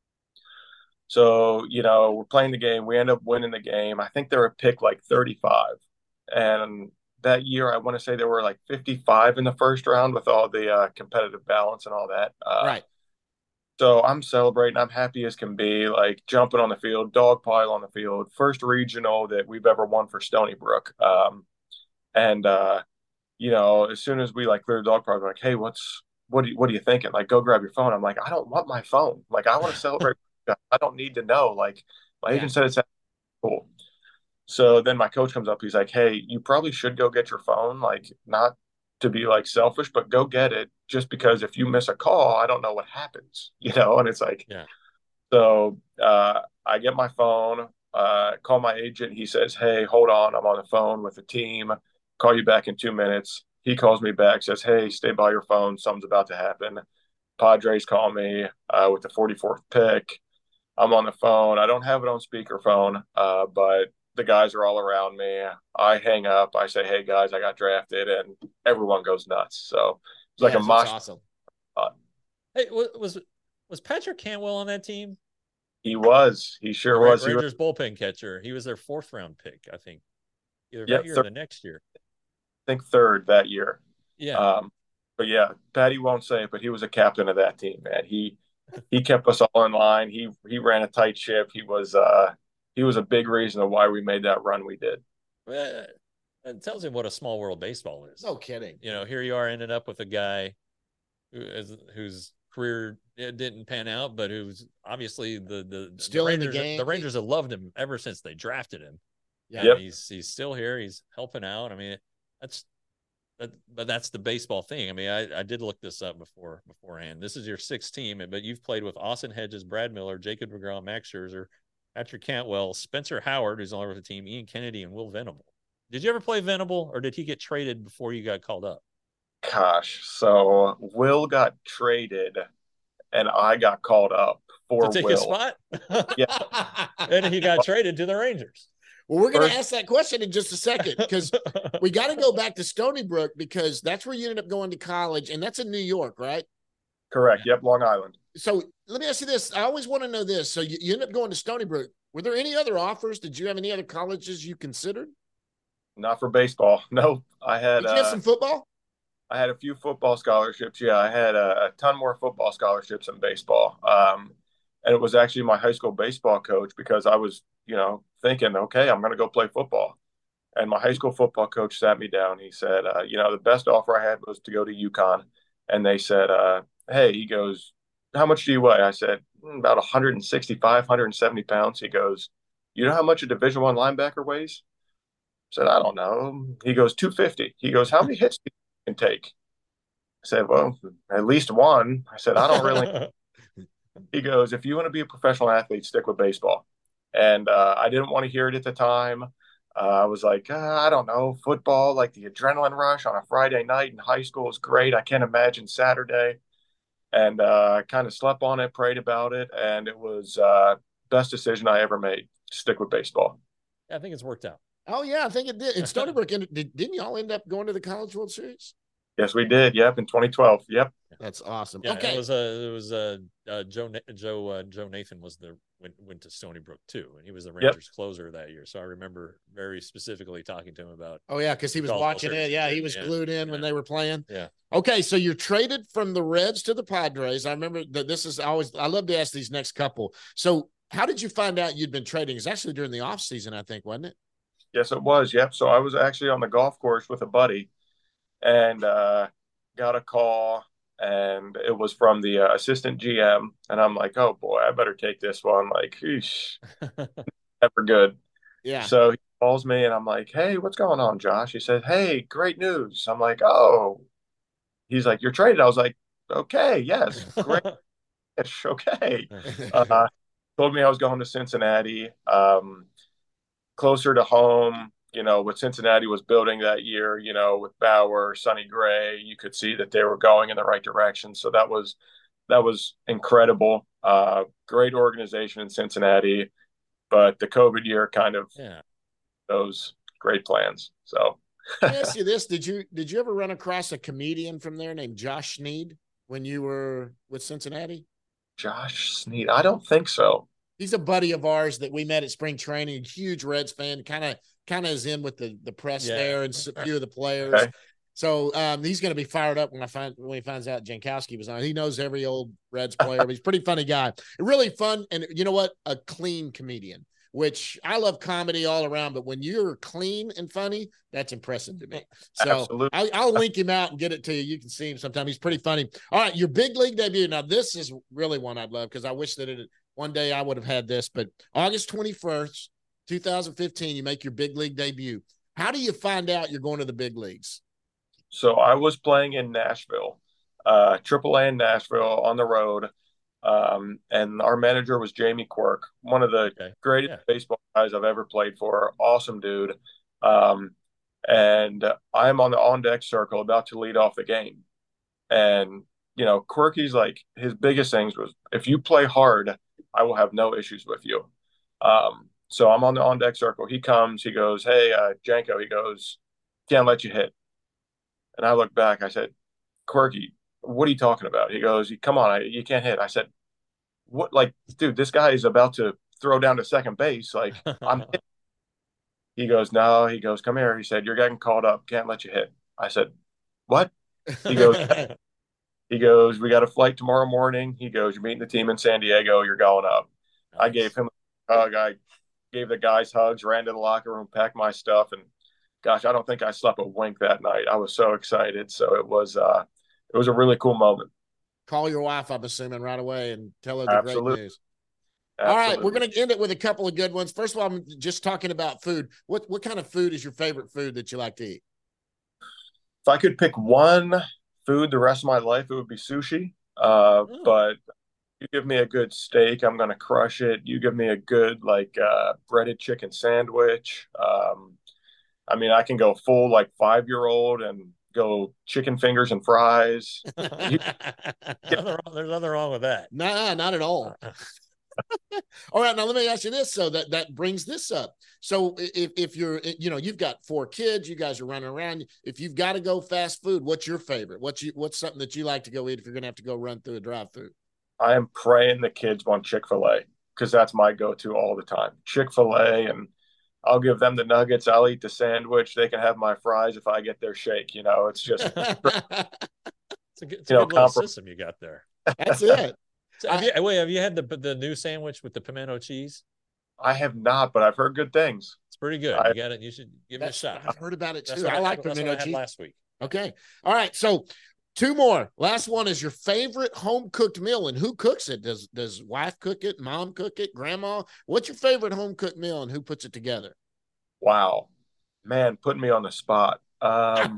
So, you know, we're playing the game. We end up winning the game. I think they were picked like thirty-five. And that year, I want to say there were like fifty-five in the first round with all the uh, competitive balance and all that. Uh, right. So I'm celebrating. I'm happy as can be, like jumping on the field, dog pile on the field. First regional that we've ever won for Stony Brook. Um, and, uh, you know, as soon as we like clear the dog pile, we're like, hey, what's, what, do you, what are you thinking? Like, go grab your phone. I'm like, I don't want my phone. Like, I want to celebrate. I don't need to know. Like, my yeah. agent said it's cool. So then my coach comes up. He's like, hey, you probably should go get your phone. Like, not to be like selfish, but go get it, just because if you miss a call, I don't know what happens, you know? And it's like, yeah. So uh, I get my phone, uh, call my agent. He says, hey, hold on. I'm on the phone with the team. Call you back in two minutes. He calls me back, says, hey, stay by your phone. Something's about to happen. Padres call me uh, with the forty-fourth pick. I'm on the phone. I don't have it on speakerphone, uh, but the guys are all around me. I hang up. I say, hey, guys, I got drafted, and everyone goes nuts. So it's like yeah, a mosh. Awesome. Uh, hey, was was Patrick Cantwell on that team? He was. He sure Ra- was. Rangers he was. bullpen catcher. He was their fourth round pick, I think. Either yeah, that year third, or the next year. I think third that year. Yeah. Um, but yeah, Patty won't say it, but he was a captain of that team, man. He he kept us all in line. He he ran a tight ship. He was uh he was a big reason of why we made that run we did. Well, it tells you what a small world baseball is. No kidding. You know, here you are ended up with a guy who is who's career it didn't pan out, but who's obviously the the Still the in the Rangers, game. The Rangers have loved him ever since they drafted him. Yeah. Yep. He's he's still here. He's helping out. I mean, that's but but that's the baseball thing. I mean, I, I did look this up before beforehand. This is your sixth team, but you've played with Austin Hedges, Brad Miller, Jacob DeGrom, Max Scherzer, Patrick Cantwell, Spencer Howard, who's on the team, Ian Kennedy, and Will Venable. Did you ever play Venable, or did he get traded before you got called up? Gosh, so Will got traded, and I got called up for to take Will. his spot. Yeah, and he got traded to the Rangers. Well, we're going to ask that question in just a second because we got to go back to Stony Brook because that's where you ended up going to college, and that's in New York, right? Correct. Yep, Long Island. So let me ask you this. I always want to know this. So you, you ended up going to Stony Brook. Were there any other offers? Did you have any other colleges you considered? Not for baseball. No, I had. Did you have uh, some football? I had a few football scholarships. Yeah, I had a, a ton more football scholarships than baseball. Um, and it was actually my high school baseball coach because I was, you know, thinking, okay, I'm going to go play football. And my high school football coach sat me down. He said, uh, you know, the best offer I had was to go to UConn. And they said, uh, hey, he goes, how much do you weigh? I said, mm, about one sixty-five, one seventy pounds. He goes, you know how much a Division One linebacker weighs? I said, I don't know. He goes, two fifty. He goes, how many hits do you can take? I said, well, at least one. I said, I don't really. He goes, if you want to be a professional athlete, stick with baseball. And uh, I didn't want to hear it at the time. Uh, I was like, uh, I don't know, football, like the adrenaline rush on a Friday night in high school is great. I can't imagine Saturday. And uh, I kind of slept on it, prayed about it, and it was uh, best decision I ever made to stick with baseball. I think it's worked out. Oh, yeah, I think it did. And Stony Brook, did, didn't y'all end up going to the College World Series? Yes, we did. Yep, in twenty twelve. Yep. That's awesome. Yeah, okay. It was a, it was a uh, Joe Joe uh, Joe Nathan was the went went to Stony Brook too, and he was the Rangers yep. closer that year. So I remember very specifically talking to him about. Oh yeah, because he was watching it. Yeah, he was yeah. glued in yeah. when they were playing. Yeah. Okay, so you're traded from the Reds to the Padres. I remember that this is always. I love to ask these next couple. So how did you find out you'd been trading? It's actually during the off season, I think, wasn't it? Yes, it was. Yep. So I was actually on the golf course with a buddy, and uh, got a call. And it was from the uh, assistant G M. And I'm like, oh, boy, I better take this one. Like, eesh, never good. Yeah. So he calls me, and I'm like, hey, what's going on, Josh? He said, hey, great news. I'm like, oh. He's like, you're traded. I was like, okay, yes, great. Okay. Uh, told me I was going to Cincinnati, um, closer to home. You know, what Cincinnati was building that year, you know, with Bauer, Sonny Gray, you could see that they were going in the right direction. So that was that was incredible. Uh, great organization in Cincinnati, but the COVID year kind of yeah. those great plans. So let me ask you this: Did you did you ever run across a comedian from there named Josh Sneed when you were with Cincinnati? Josh Sneed, I don't think so. He's a buddy of ours that we met at spring training. Huge Reds fan, kind of. kind of is in with the, the press yeah. there and a few of the players. Okay. So um, he's going to be fired up when I find when he finds out Jankowski was on. He knows every old Reds player, but he's a pretty funny guy. Really fun. And you know what? A clean comedian, which I love comedy all around. But when you're clean and funny, that's impressive to me. So I, I'll link him out and get it to you. You can see him sometime. He's pretty funny. All right. Your big league debut. Now, this is really one I'd love because I wish that it one day I would have had this, but August twenty-first, two thousand fifteen, you make your big league debut. How do you find out you're going to the big leagues? So I was playing in Nashville, uh, triple A in Nashville on the road. Um, and our manager was Jamie Quirk, one of the okay. greatest yeah. baseball guys I've ever played for. Awesome dude. Um, and I'm on the on-deck circle about to lead off the game. And, you know, Quirky's like, his biggest things was, if you play hard, I will have no issues with you. Um, So I'm on the on-deck circle. He comes. He goes, hey, uh, Janko. He goes, can't let you hit. And I look back. I said, Quirky, what are you talking about? He goes, come on, I, you can't hit. I said, what? Like, dude, this guy is about to throw down to second base. Like, I'm hitting. He goes, no. He goes, come here. He said, you're getting called up. Can't let you hit. I said, what? He goes, he goes, we got a flight tomorrow morning. He goes, you're meeting the team in San Diego. You're going up. Nice. I gave him a hug. I gave the guys hugs, ran to the locker room, packed my stuff, and gosh, I don't think I slept a wink that night. I was so excited. So it was, uh, it was a really cool moment. call your wife, I'm assuming, right away and tell her the Absolutely. great news. Absolutely. All right, we're going to end it with a couple of good ones. First of all, I'm just talking about food. What what kind of food is your favorite food that you like to eat? If I could pick one food the rest of my life, it would be sushi. Uh, Oh. But you give me a good steak, I'm going to crush it. You give me a good, like, uh, breaded chicken sandwich. Um, I mean, I can go full, like, five-year-old and go chicken fingers and fries. You, Nothing wrong- There's nothing wrong with that. Nah, not at all. All right, now let me ask you this. So that that brings this up. So if if you're, you know, you've got four kids, you guys are running around. If you've got to go fast food, what's your favorite? What's you what's something that you like to go eat if you're going to have to go run through a drive-through? I am praying the kids want Chick-fil-A because that's my go-to all the time. Chick-fil-A, and I'll give them the nuggets. I'll eat the sandwich. They can have my fries if I get their shake. You know, it's just It's a good, it's a You good know, little compro- system you got there. That's it. So have you, wait, have you had the the new sandwich with the pimento cheese? I have not, but I've heard good things. It's pretty good. I- You got it. You should give it a That's, shot. I've heard about it That's too. what I like that's what pimento I had cheese. last week. Okay. All right. So two more. Last one is your favorite home cooked meal, and who cooks it? Does does wife cook it? Mom cook it? Grandma? What's your favorite home cooked meal, and who puts it together? Wow, man, putting me on the spot. Um,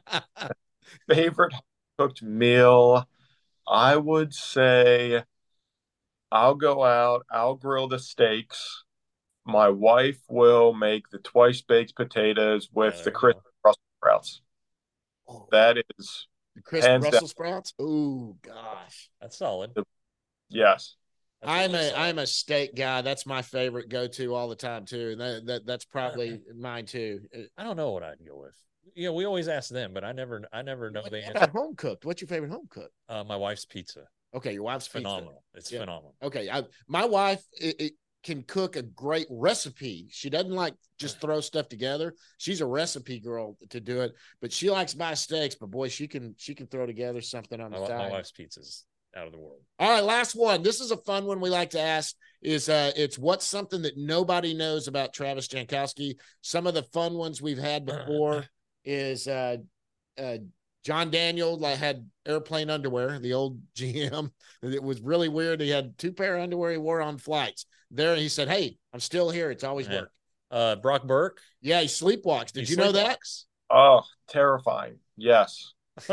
favorite cooked meal, I would say I'll go out, I'll grill the steaks. My wife will make the twice baked potatoes with Yeah, the there you crisp go. Brussels sprouts. Oh, That is, crisp hands Brussels sprouts. Oh gosh. That's solid. yes. That's I'm really a solid. I'm a steak guy. That's my favorite go to all the time too. And that, that that's probably mine too. I don't know what I'd go with. You know, we always ask them, but I never, I never know What the about answer. home cooked? What's your favorite home cooked? Uh, my wife's pizza, Okay, your wife's pizza. phenomenal. It's Yeah. phenomenal. Okay, I, my wife it, it can cook a great recipe. She doesn't like just throw stuff together. She's a recipe girl to do it, but she likes my steaks. But boy, she can she can throw together something on the My, side. my wife's pizza's out of the world. All right, last one. This is a fun one we like to ask. Is uh, it's what's something that nobody knows about Travis Jankowski? Some of the fun ones we've had before is uh, uh, John Daniel like, had airplane underwear, the old G M. It was really weird. He had two pair of underwear he wore on flights. There, he said, "Hey, I'm still here. It's always Yeah. worked." Uh, Brock Burke. Yeah, he sleepwalks. Did he you know that? sleepwalks. Oh, terrifying. Yes.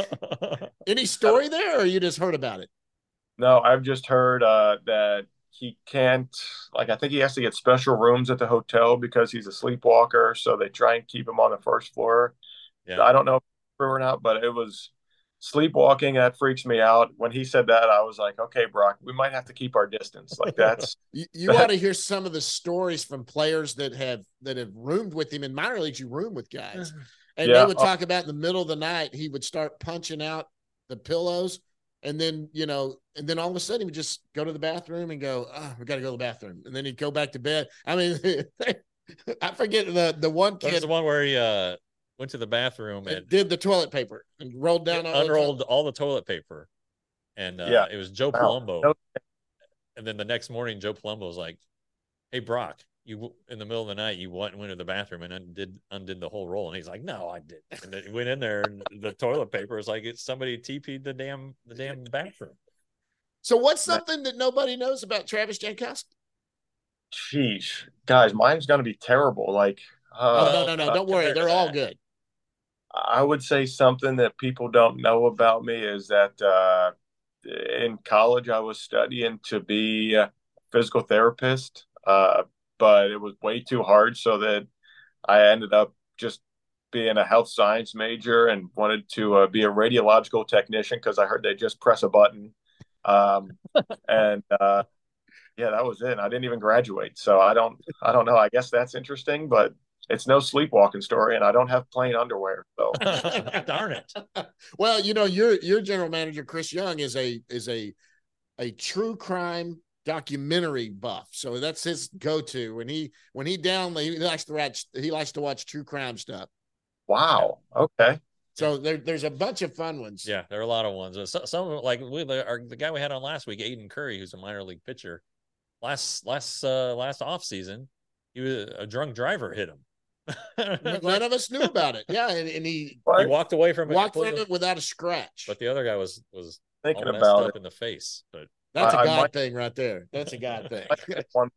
Any story there, or you just heard about it? No, I've just heard uh, that he can't, like, I think he has to get special rooms at the hotel because he's a sleepwalker. So they try and keep him on the first floor. Yeah. I don't know if it's true or not, but it was sleepwalking. That freaks me out. When he said that, I was like, okay, Brock, we might have to keep our distance. Like, that's You, you ought to hear some of the stories from players that have that have roomed with him in minor leagues. You room with guys, and Yeah. they would talk about in the middle of the night he would start punching out the pillows, and then you know, and then all of a sudden he would just go to the bathroom and go, "Oh, we got to go to the bathroom," and then he'd go back to bed. I mean, I forget the the one That's kid the one where he uh, went to the bathroom and did the toilet paper and rolled down all the unrolled all the toilet paper, and uh, Yeah. it was Joe Wow. Palumbo. No. And then the next morning, Joe Palumbo was like, "Hey, Brock, you in the middle of the night, you went went to the bathroom and undid undid the whole roll." And he's like, "No, I didn't." And then he went in there, and the toilet paper was like it's somebody T P'd the damn the damn bathroom. So what's something that nobody knows about Travis Jankowski? Sheesh, guys, mine's gonna be terrible. Like, Oh uh, no, no, no! uh, Don't worry, compared to they're all that. good. I would say something that people don't know about me is that uh, in college I was studying to be a physical therapist, uh, but it was way too hard, so that I ended up just being a health science major and wanted to uh, be a radiological technician because I heard they just press a button. Um, and uh, yeah, that was it. I didn't even graduate, so I don't, I don't know. I guess that's interesting, but it's no sleepwalking story, and I don't have plain underwear. So Darn it! Well, you know, your your general manager Chris Young is a is a a true crime documentary buff, so that's his go to. When he when he down, he likes to watch he likes to watch true crime stuff. wow, okay, So there, there's a bunch of fun ones. Yeah, there are a lot of ones. So, some like we, our, the guy we had on last week, Aiden Curry, who's a minor league pitcher. Last last uh, last off season, he was a drunk driver hit him. None of us knew about it. Yeah, and, and he What? He walked away from it. walked from completely. it without a scratch. But the other guy was was thinking all messed about up it. in the face, but That's a I- I God might- thing right there. That's a God thing. One-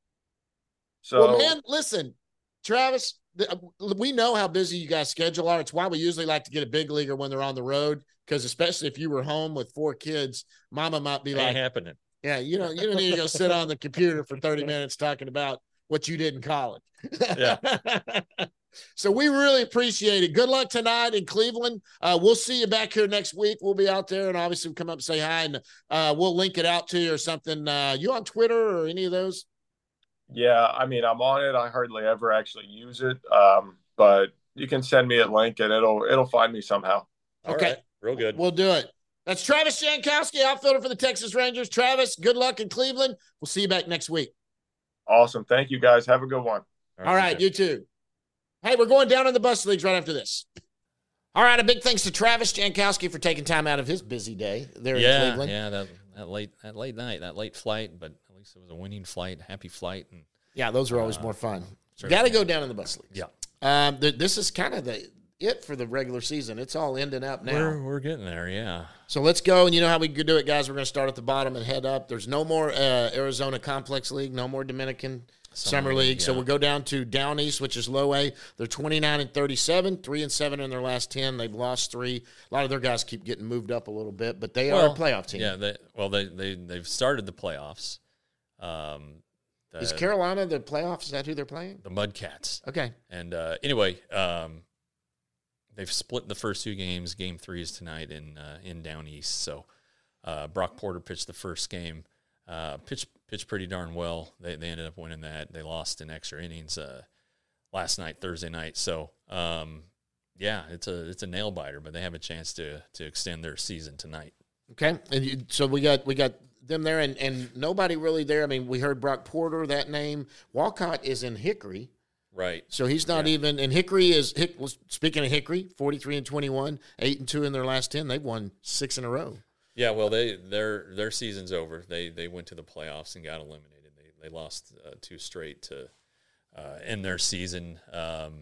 So, Well, man, listen, Travis, th- we know how busy you guys' schedule are. It's why we usually like to get a big leaguer when they're on the road, because especially if you were home with four kids, mama might be ain't like, happening. yeah, you know, you don't need to go sit on the computer for thirty minutes talking about what you did in college. Yeah. So we really appreciate it. Good luck tonight in Cleveland. Uh, we'll see you back here next week. We'll be out there and obviously come up and say hi, and uh, we'll link it out to you or something. Uh, you on Twitter or any of those? yeah, I mean, I'm on it. I hardly ever actually use it, um, but you can send me a link and it'll it'll find me somehow. All Okay. right. Real good. We'll do it. That's Travis Jankowski, outfielder for the Texas Rangers. Travis, good luck in Cleveland. We'll see you back next week. Awesome. Thank you, guys. Have a good one. All right, you too. Hey, we're going down in the bus leagues right after this. All right, a big thanks to Travis Jankowski for taking time out of his busy day there in yeah, Cleveland. Yeah, that, that late that late night, that late flight, but at least it was a winning flight, happy flight. And Yeah, those are always Uh, more fun. certainly. Got to go down in the bus leagues. yeah, Um, th- this is kind of the it for the regular season. It's all ending up now. we're we're getting there. Yeah, So let's go. And you know how we could do it, guys. We're going to start at the bottom and head up. There's no more uh, Arizona Complex League, no more Dominican Summer, Summer League. League, So yeah. we'll go down to Down East, which is low A. They're twenty-nine and thirty-seven, three and seven in their last ten. They've lost three. A lot of their guys keep getting moved up a little bit, but they are a playoff team. Yeah, they, well, they they they've started the playoffs. Um, the, Is Carolina the playoffs? Is that who they're playing? the Mudcats? Okay. And uh, anyway, um, they've split the first two games. Game three is tonight in uh, in Down East. So uh, Brock Porter pitched the first game. Uh, pitched pitched pretty darn well. They they ended up winning that. They lost in extra innings uh, last night, Thursday night. So um, yeah, it's a it's a nail biter, but they have a chance to to extend their season tonight. Okay. And you, so we got we got them there, and, and nobody really there. I mean, we heard Brock Porter, that name. Walcott is in Hickory. Right. So he's not Yeah. even, and Hickory is, Hick, speaking of Hickory, forty-three and twenty-one, eight and two in their last ten. They've won six in a row. Yeah, well, they their their season's over. They they went to the playoffs and got eliminated. They they lost uh, two straight to uh, end their season. Um,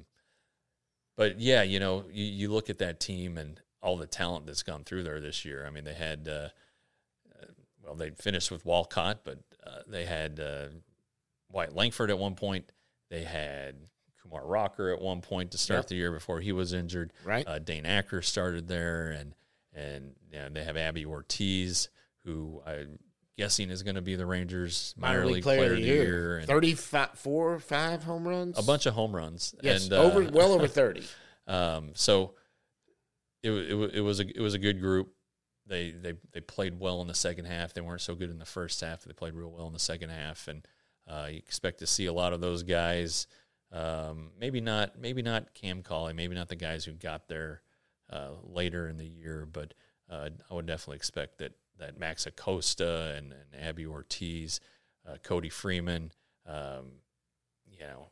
but yeah, you know, you, you look at that team and all the talent that's gone through there this year. I mean, they had uh, uh, well, they finished with Walcott, but uh, they had uh, Wyatt Langford at one point. They had Kumar Rocker at one point to start Yep. the year before he was injured. Right. Uh, Dane Acker started there, and and you know, they have Abby Ortiz, who I'm guessing is going to be the Rangers minor, league player, of the year. year and thirty-five, four, five home runs. a bunch of home runs. Yes, and, uh, over well over thirty. Um, so it, wa- it, wa- it was a it was a good group. They they they played well in the second half. They weren't so good in the first half. They played real well in the second half, and uh, you expect to see a lot of those guys. Um, maybe not maybe not Cam Cauley, maybe not the guys who got there uh, later in the year, but uh, I would definitely expect that that Max Acosta and, and Abby Ortiz, uh, Cody Freeman, um, you know,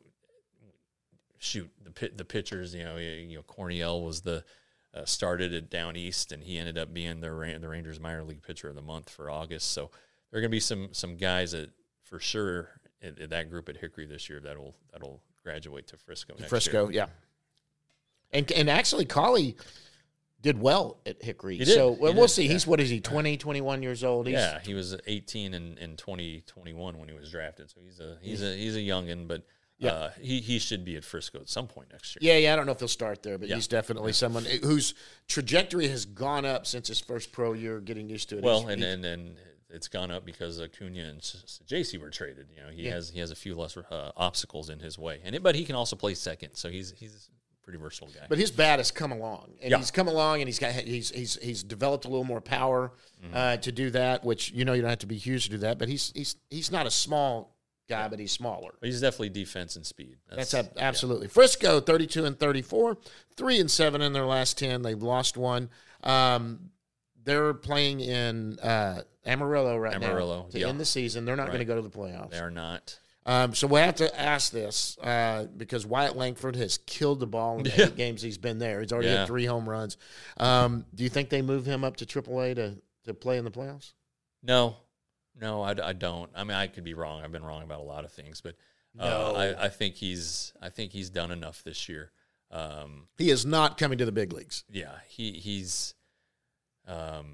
shoot the pit, the pitchers. You know, you, you know, Corniel was the uh, started at Down East, and he ended up being the Ra- the Rangers minor league pitcher of the month for August. So there are going to be some some guys that for sure in, in that group at Hickory this year that'll that'll graduate to Frisco. Next Frisco, year. yeah. And and actually, Cauley did well at Hickory. He did. So He well, we'll did, see. yeah. He's, what is he, twenty, twenty-one years old? He's, Yeah, he was eighteen in, in twenty twenty-one when he was drafted. So he's a he's a he's a youngin, but Yeah. uh, he he should be at Frisco at some point next year. Yeah, yeah, I don't know if he'll start there, but Yeah. he's definitely someone whose trajectory has gone up since his first pro year, getting used to it. Well, He's- and, he's- and and it's gone up because Acuna and J C were traded. You know, he Yeah. has he has a few less uh, obstacles in his way, and it, but he can also play second, so he's he's a pretty versatile guy. But his bat has come along, and Yeah. he's come along, and he's got he's he's he's developed a little more power Mm-hmm. uh, to do that. Which you know you don't have to be huge to do that, but he's he's he's not a small guy, but he's smaller. But he's definitely defense and speed. That's, ab- absolutely Frisco, thirty-two and thirty-four, three and seven in their last ten. They've lost one. Um, they're playing in uh, Amarillo right Amarillo, now to yeah. end the season. They're not Right. going to go to the playoffs. They are not. Um, so we have to ask this uh, because Wyatt Langford has killed the ball in the Yeah. eight games he's been there. He's already Yeah. had three home runs. Um, do you think they move him up to triple A to, to play in the playoffs? No, no, I, I don't. I mean, I could be wrong. I've been wrong about a lot of things, but uh, No. I, I think he's I think he's done enough this year. Um, He is not coming to the big leagues. yeah, he he's um,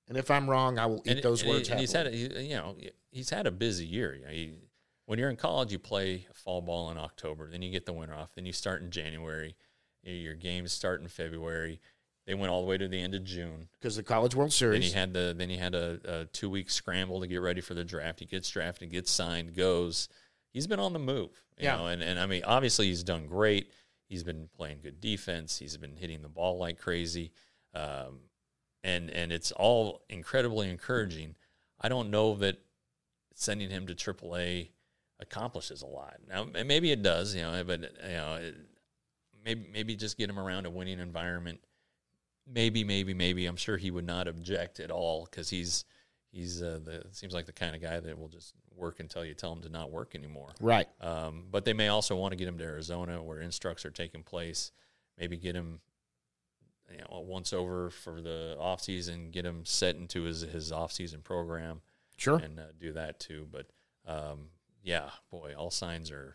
And if I'm wrong, I will eat and, those and words. He, and he's had, a, he, you know, he's had a busy year. You know, he, when you're in college, you play fall ball in October, then you get the winter off, then you start in January. Your games start in February. They went all the way to the end of June because the College World Series. Then he had the then he had a, a two week scramble to get ready for the draft. He gets drafted, gets signed, goes. He's been on the move, you yeah. know, and, and I mean, obviously he's done great. He's been playing good defense. He's been hitting the ball like crazy, um, and and it's all incredibly encouraging. I don't know that sending him to triple A accomplishes a lot. Now, maybe it does, you know, but you know, it, maybe maybe just get him around a winning environment. Maybe, maybe, maybe. I'm sure he would not object at all because he's he's uh, the seems like the kind of guy that will just work until you tell him to not work anymore. Right. Um, but they may also want to get him to Arizona where instructs are taking place. Maybe get him, you know, once over for the off season. Get him set into his his off season program. Sure. And uh, do that too. But um, yeah, boy, all signs are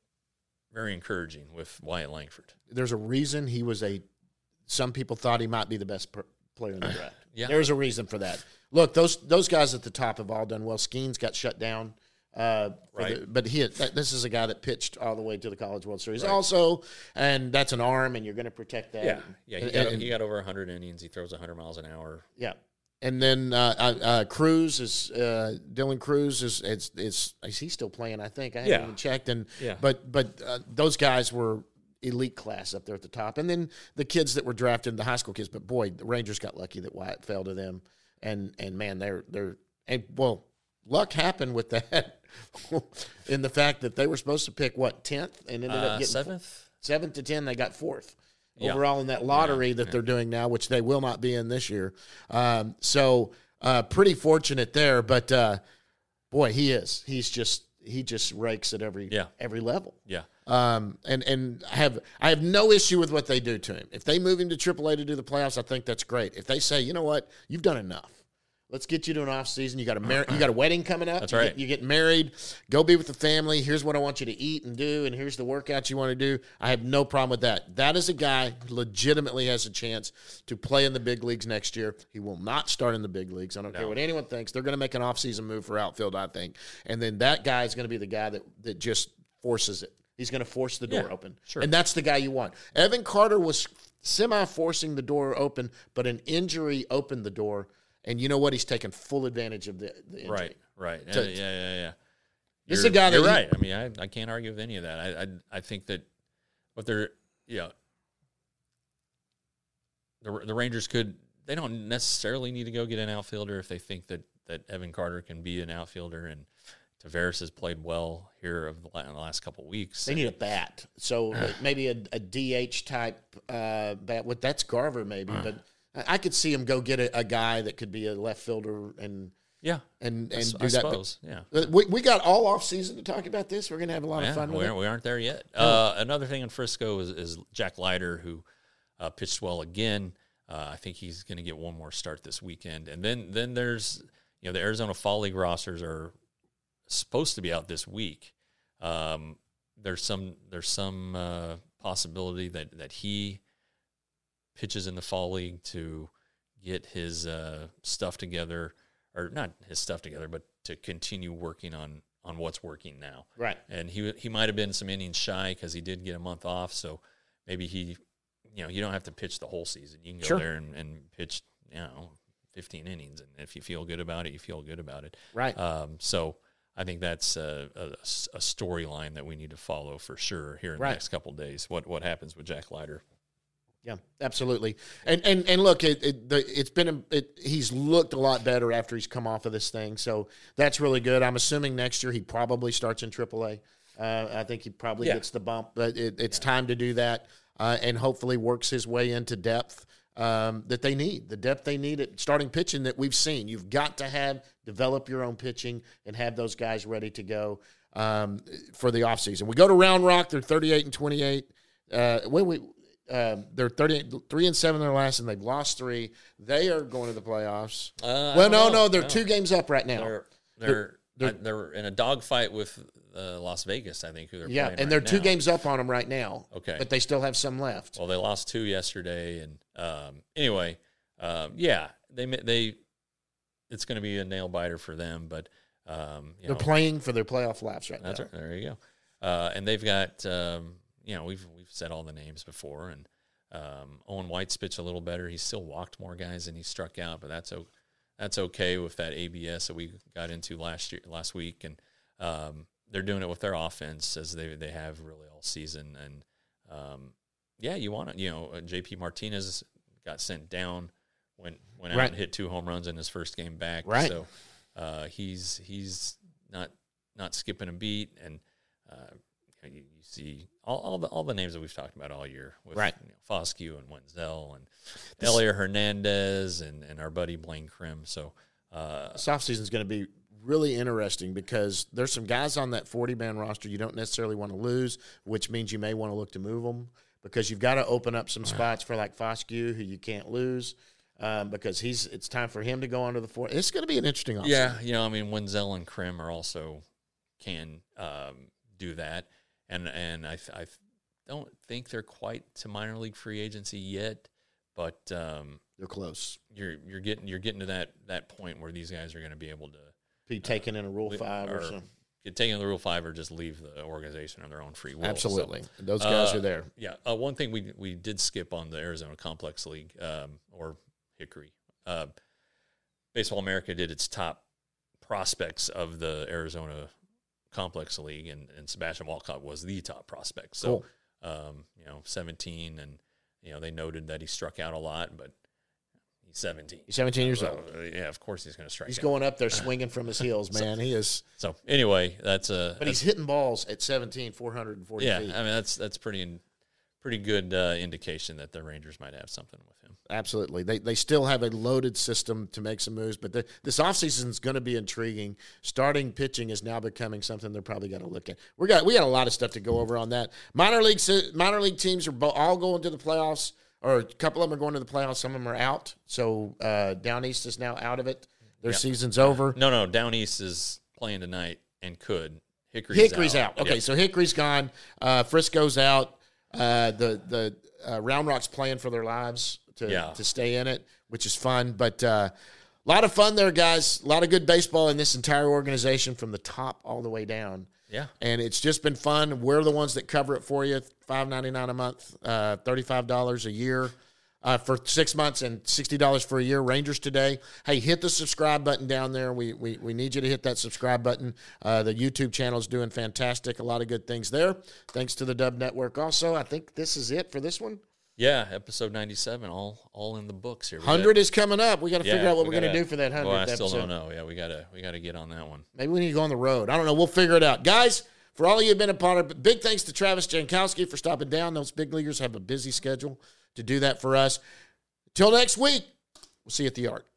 very encouraging with Wyatt Langford. There's a reason he was a. Some people thought he might be the best per, player in the draft. Yeah. There's a reason for that. Look, those those guys at the top have all done well. Skeens got shut down, uh, right? The, but he that, this is a guy that pitched all the way to the College World Series, right. also, and that's an arm, and you're going to protect that. Yeah, yeah. He, and, got, and, he got over one hundred innings. He throws one hundred miles an hour. Yeah. And then uh, uh, Cruz is uh, Dylan Cruz is it's is is he still playing? I think I haven't yeah. even checked. And yeah. but but uh, those guys were elite class up there at the top. And then the kids that were drafted, the high school kids. But boy, the Rangers got lucky that Wyatt fell to them. And and man, they're they're and well, luck happened with that in the fact that they were supposed to pick what tenth and ended uh, up getting seventh, seventh to ten. They got fourth. Yeah. Overall in that lottery yeah, that yeah. they're doing now, which they will not be in this year. Um, so uh, pretty fortunate there, but uh, boy, he is. He's just he just rakes at every yeah. every level. Yeah. Um, and and I have I have no issue with what they do to him. If they move him to triple A to do the playoffs, I think that's great. If they say, you know what, you've done enough. Let's get you to an off season. You got a mar- you got a wedding coming up. That's you right. Get, you get married. Go be with the family. Here's what I want you to eat and do, and here's the workouts you want to do. I have no problem with that. That is a guy who legitimately has a chance to play in the big leagues next year. He will not start in the big leagues. I don't no. care what anyone thinks. They're going to make an off season move for outfield, I think. And then that guy is going to be the guy that that just forces it. He's going to force the door yeah, open. Sure. And that's the guy you want. Evan Carter was semi-forcing the door open, but an injury opened the door. And you know what? He's taken full advantage of the, the injury. Right, right. So, yeah, yeah, yeah, yeah. This is a guy that you're he, right. I mean, I, I can't argue with any of that. I I, I think that what they're, you know, the, the Rangers could, they don't necessarily need to go get an outfielder if they think that, that Evan Carter can be an outfielder. And Tavares has played well here of the last couple of weeks. They need a bat. So maybe a, a D H type uh, bat. What that's Garver maybe, but I could see him go get a, a guy that could be a left fielder and yeah, and and I, do I that. Suppose, but, yeah, we we got all off season to talk about this. We're gonna have a lot yeah, of fun we with aren't, it. We aren't there yet. Uh, another thing in Frisco is, is Jack Leiter, who uh, pitched well again. Uh, I think he's going to get one more start this weekend, and then then there's you know the Arizona Fall League rosters are supposed to be out this week. Um, there's some there's some uh, possibility that that he pitches in the Fall League to get his uh, stuff together, or not his stuff together, but to continue working on, on what's working now. Right. And he he might have been some innings shy because he did get a month off, so maybe he, you know, you don't have to pitch the whole season. You can go sure. there and, and pitch, you know, fifteen innings, and if you feel good about it, you feel good about it. Right. Um, so I think that's a, a, a storyline that we need to follow for sure here in right. the next couple of days. What what happens with Jack Leiter? Yeah, absolutely. And and and look, it, it the, it's been a, it, he's looked a lot better after he's come off of this thing, so that's really good. I'm assuming next year he probably starts in triple A. Uh, I think he probably yeah. gets the bump, but it, it's yeah. time to do that, uh, and hopefully works his way into depth um, that they need, the depth they need at starting pitching that we've seen. You've got to have develop your own pitching and have those guys ready to go um, for the offseason. We go to Round Rock; they're thirty-eight and twenty-eight. Uh, when we Um, they're thirty-eight, three and seven in their last, and they've lost three. They are going to the playoffs. Uh, well, no, know. no, they're no. two games up right now. They're they're They're- they're, I, they're in a dogfight with uh, Las Vegas, I think. Who they're yeah, playing and right they're two now. games up on them right now. Okay, but they still have some left. Well, they lost two yesterday, and um, anyway, um, yeah, they they it's going to be a nail biter for them. But um, you they're know, playing for their playoff laps right that's now. right. There you go. Uh, and they've got um, you know we've we've said all the names before, and um, Owen White's pitched a little better. He's still walked more guys than he struck out, but that's okay. That's okay with that A B S that we got into last year, last week, and um, they're doing it with their offense as they they have really all season. And um, yeah, you want to, you know, uh, J P Martinez got sent down, went went out Right. and hit two home runs in his first game back. Right. So uh, he's he's not not skipping a beat, and uh, you, you see all, all the all the names that we've talked about all year with Right. you know, Foscue and Wenzel and This- Elliot Hernandez and, and our buddy Blaine Krim. So uh, This offseason is going to be really interesting because there's some guys on that forty-man roster you don't necessarily want to lose, which means you may want to look to move them because you've got to open up some spots for like Foscue, who you can't lose, um, because he's it's time for him to go onto the four. It's going to be an interesting offseason. yeah, you know, I mean, Wenzel and Krim are also can um, do that, and and I I don't think they're quite to minor league free agency yet, but um, They're close. you're you're getting you're getting to that that point where these guys are going to be able to Be taken in a Rule le- five or, or something. get taken in the Rule Five or just leave the organization on their own free will. So, Absolutely. Those guys uh, are there. Yeah. Uh, one thing we we did skip on the Arizona Complex League um, or Hickory. Uh, Baseball America did its top prospects of the Arizona Complex League, and, and Sebastian Walcott was the top prospect. So, Cool. um, you know, seventeen, and, you know, they noted that he struck out a lot, but he's seventeen. He's seventeen years old. Uh, yeah, of course he's going to strike He's out. going up there swinging from his heels, man. He is. So, anyway, that's a. But he's hitting balls at seventeen, four hundred forty Yeah, feet. I mean, that's that's pretty pretty good uh, indication that the Rangers might have something with him. Absolutely. They they still have a loaded system to make some moves, but the, this offseason is going to be intriguing. Starting pitching is now becoming something they're probably going to look at. We got we got a lot of stuff to go over on that. Minor league minor league teams are bo- all going to the playoffs, or a couple of them are going to the playoffs. Some of them are out. So uh, Down East is now out of it. Their Yeah. season's over. No, no, Down East is playing tonight and could. Hickory's, Hickory's out. Okay, Yep. so Hickory's gone. Uh, Frisco's out. Uh, the the uh, Round Rock's playing for their lives to Yeah. to stay in it, which is fun. But uh, a lot of fun there, guys. A lot of good baseball in this entire organization from the top all the way down. Yeah. And it's just been fun. We're the ones that cover it for you. five ninety-nine a month, uh, thirty-five dollars a year uh, for six months and sixty dollars for a year. Rangers Today. Hey, hit the subscribe button down there. We we, we need you to hit that subscribe button. Uh, the YouTube channel is doing fantastic. A lot of good things there. Thanks to the Dub Network also. I think this is it for this one. Yeah, episode ninety-seven, all all in the books here. We one hundred got- is coming up. We got to yeah, figure out what we we're going to gotta- do for that Well, hundredth I still episode. don't know. Yeah, we gotta we gotta get on that one. Maybe we need to go on the road. I don't know. We'll figure it out. Guys, for all of you who have been a part of it, big thanks to Travis Jankowski for stopping down. Those big leaguers have a busy schedule to do that for us. Till next week, we'll see you at the Arc.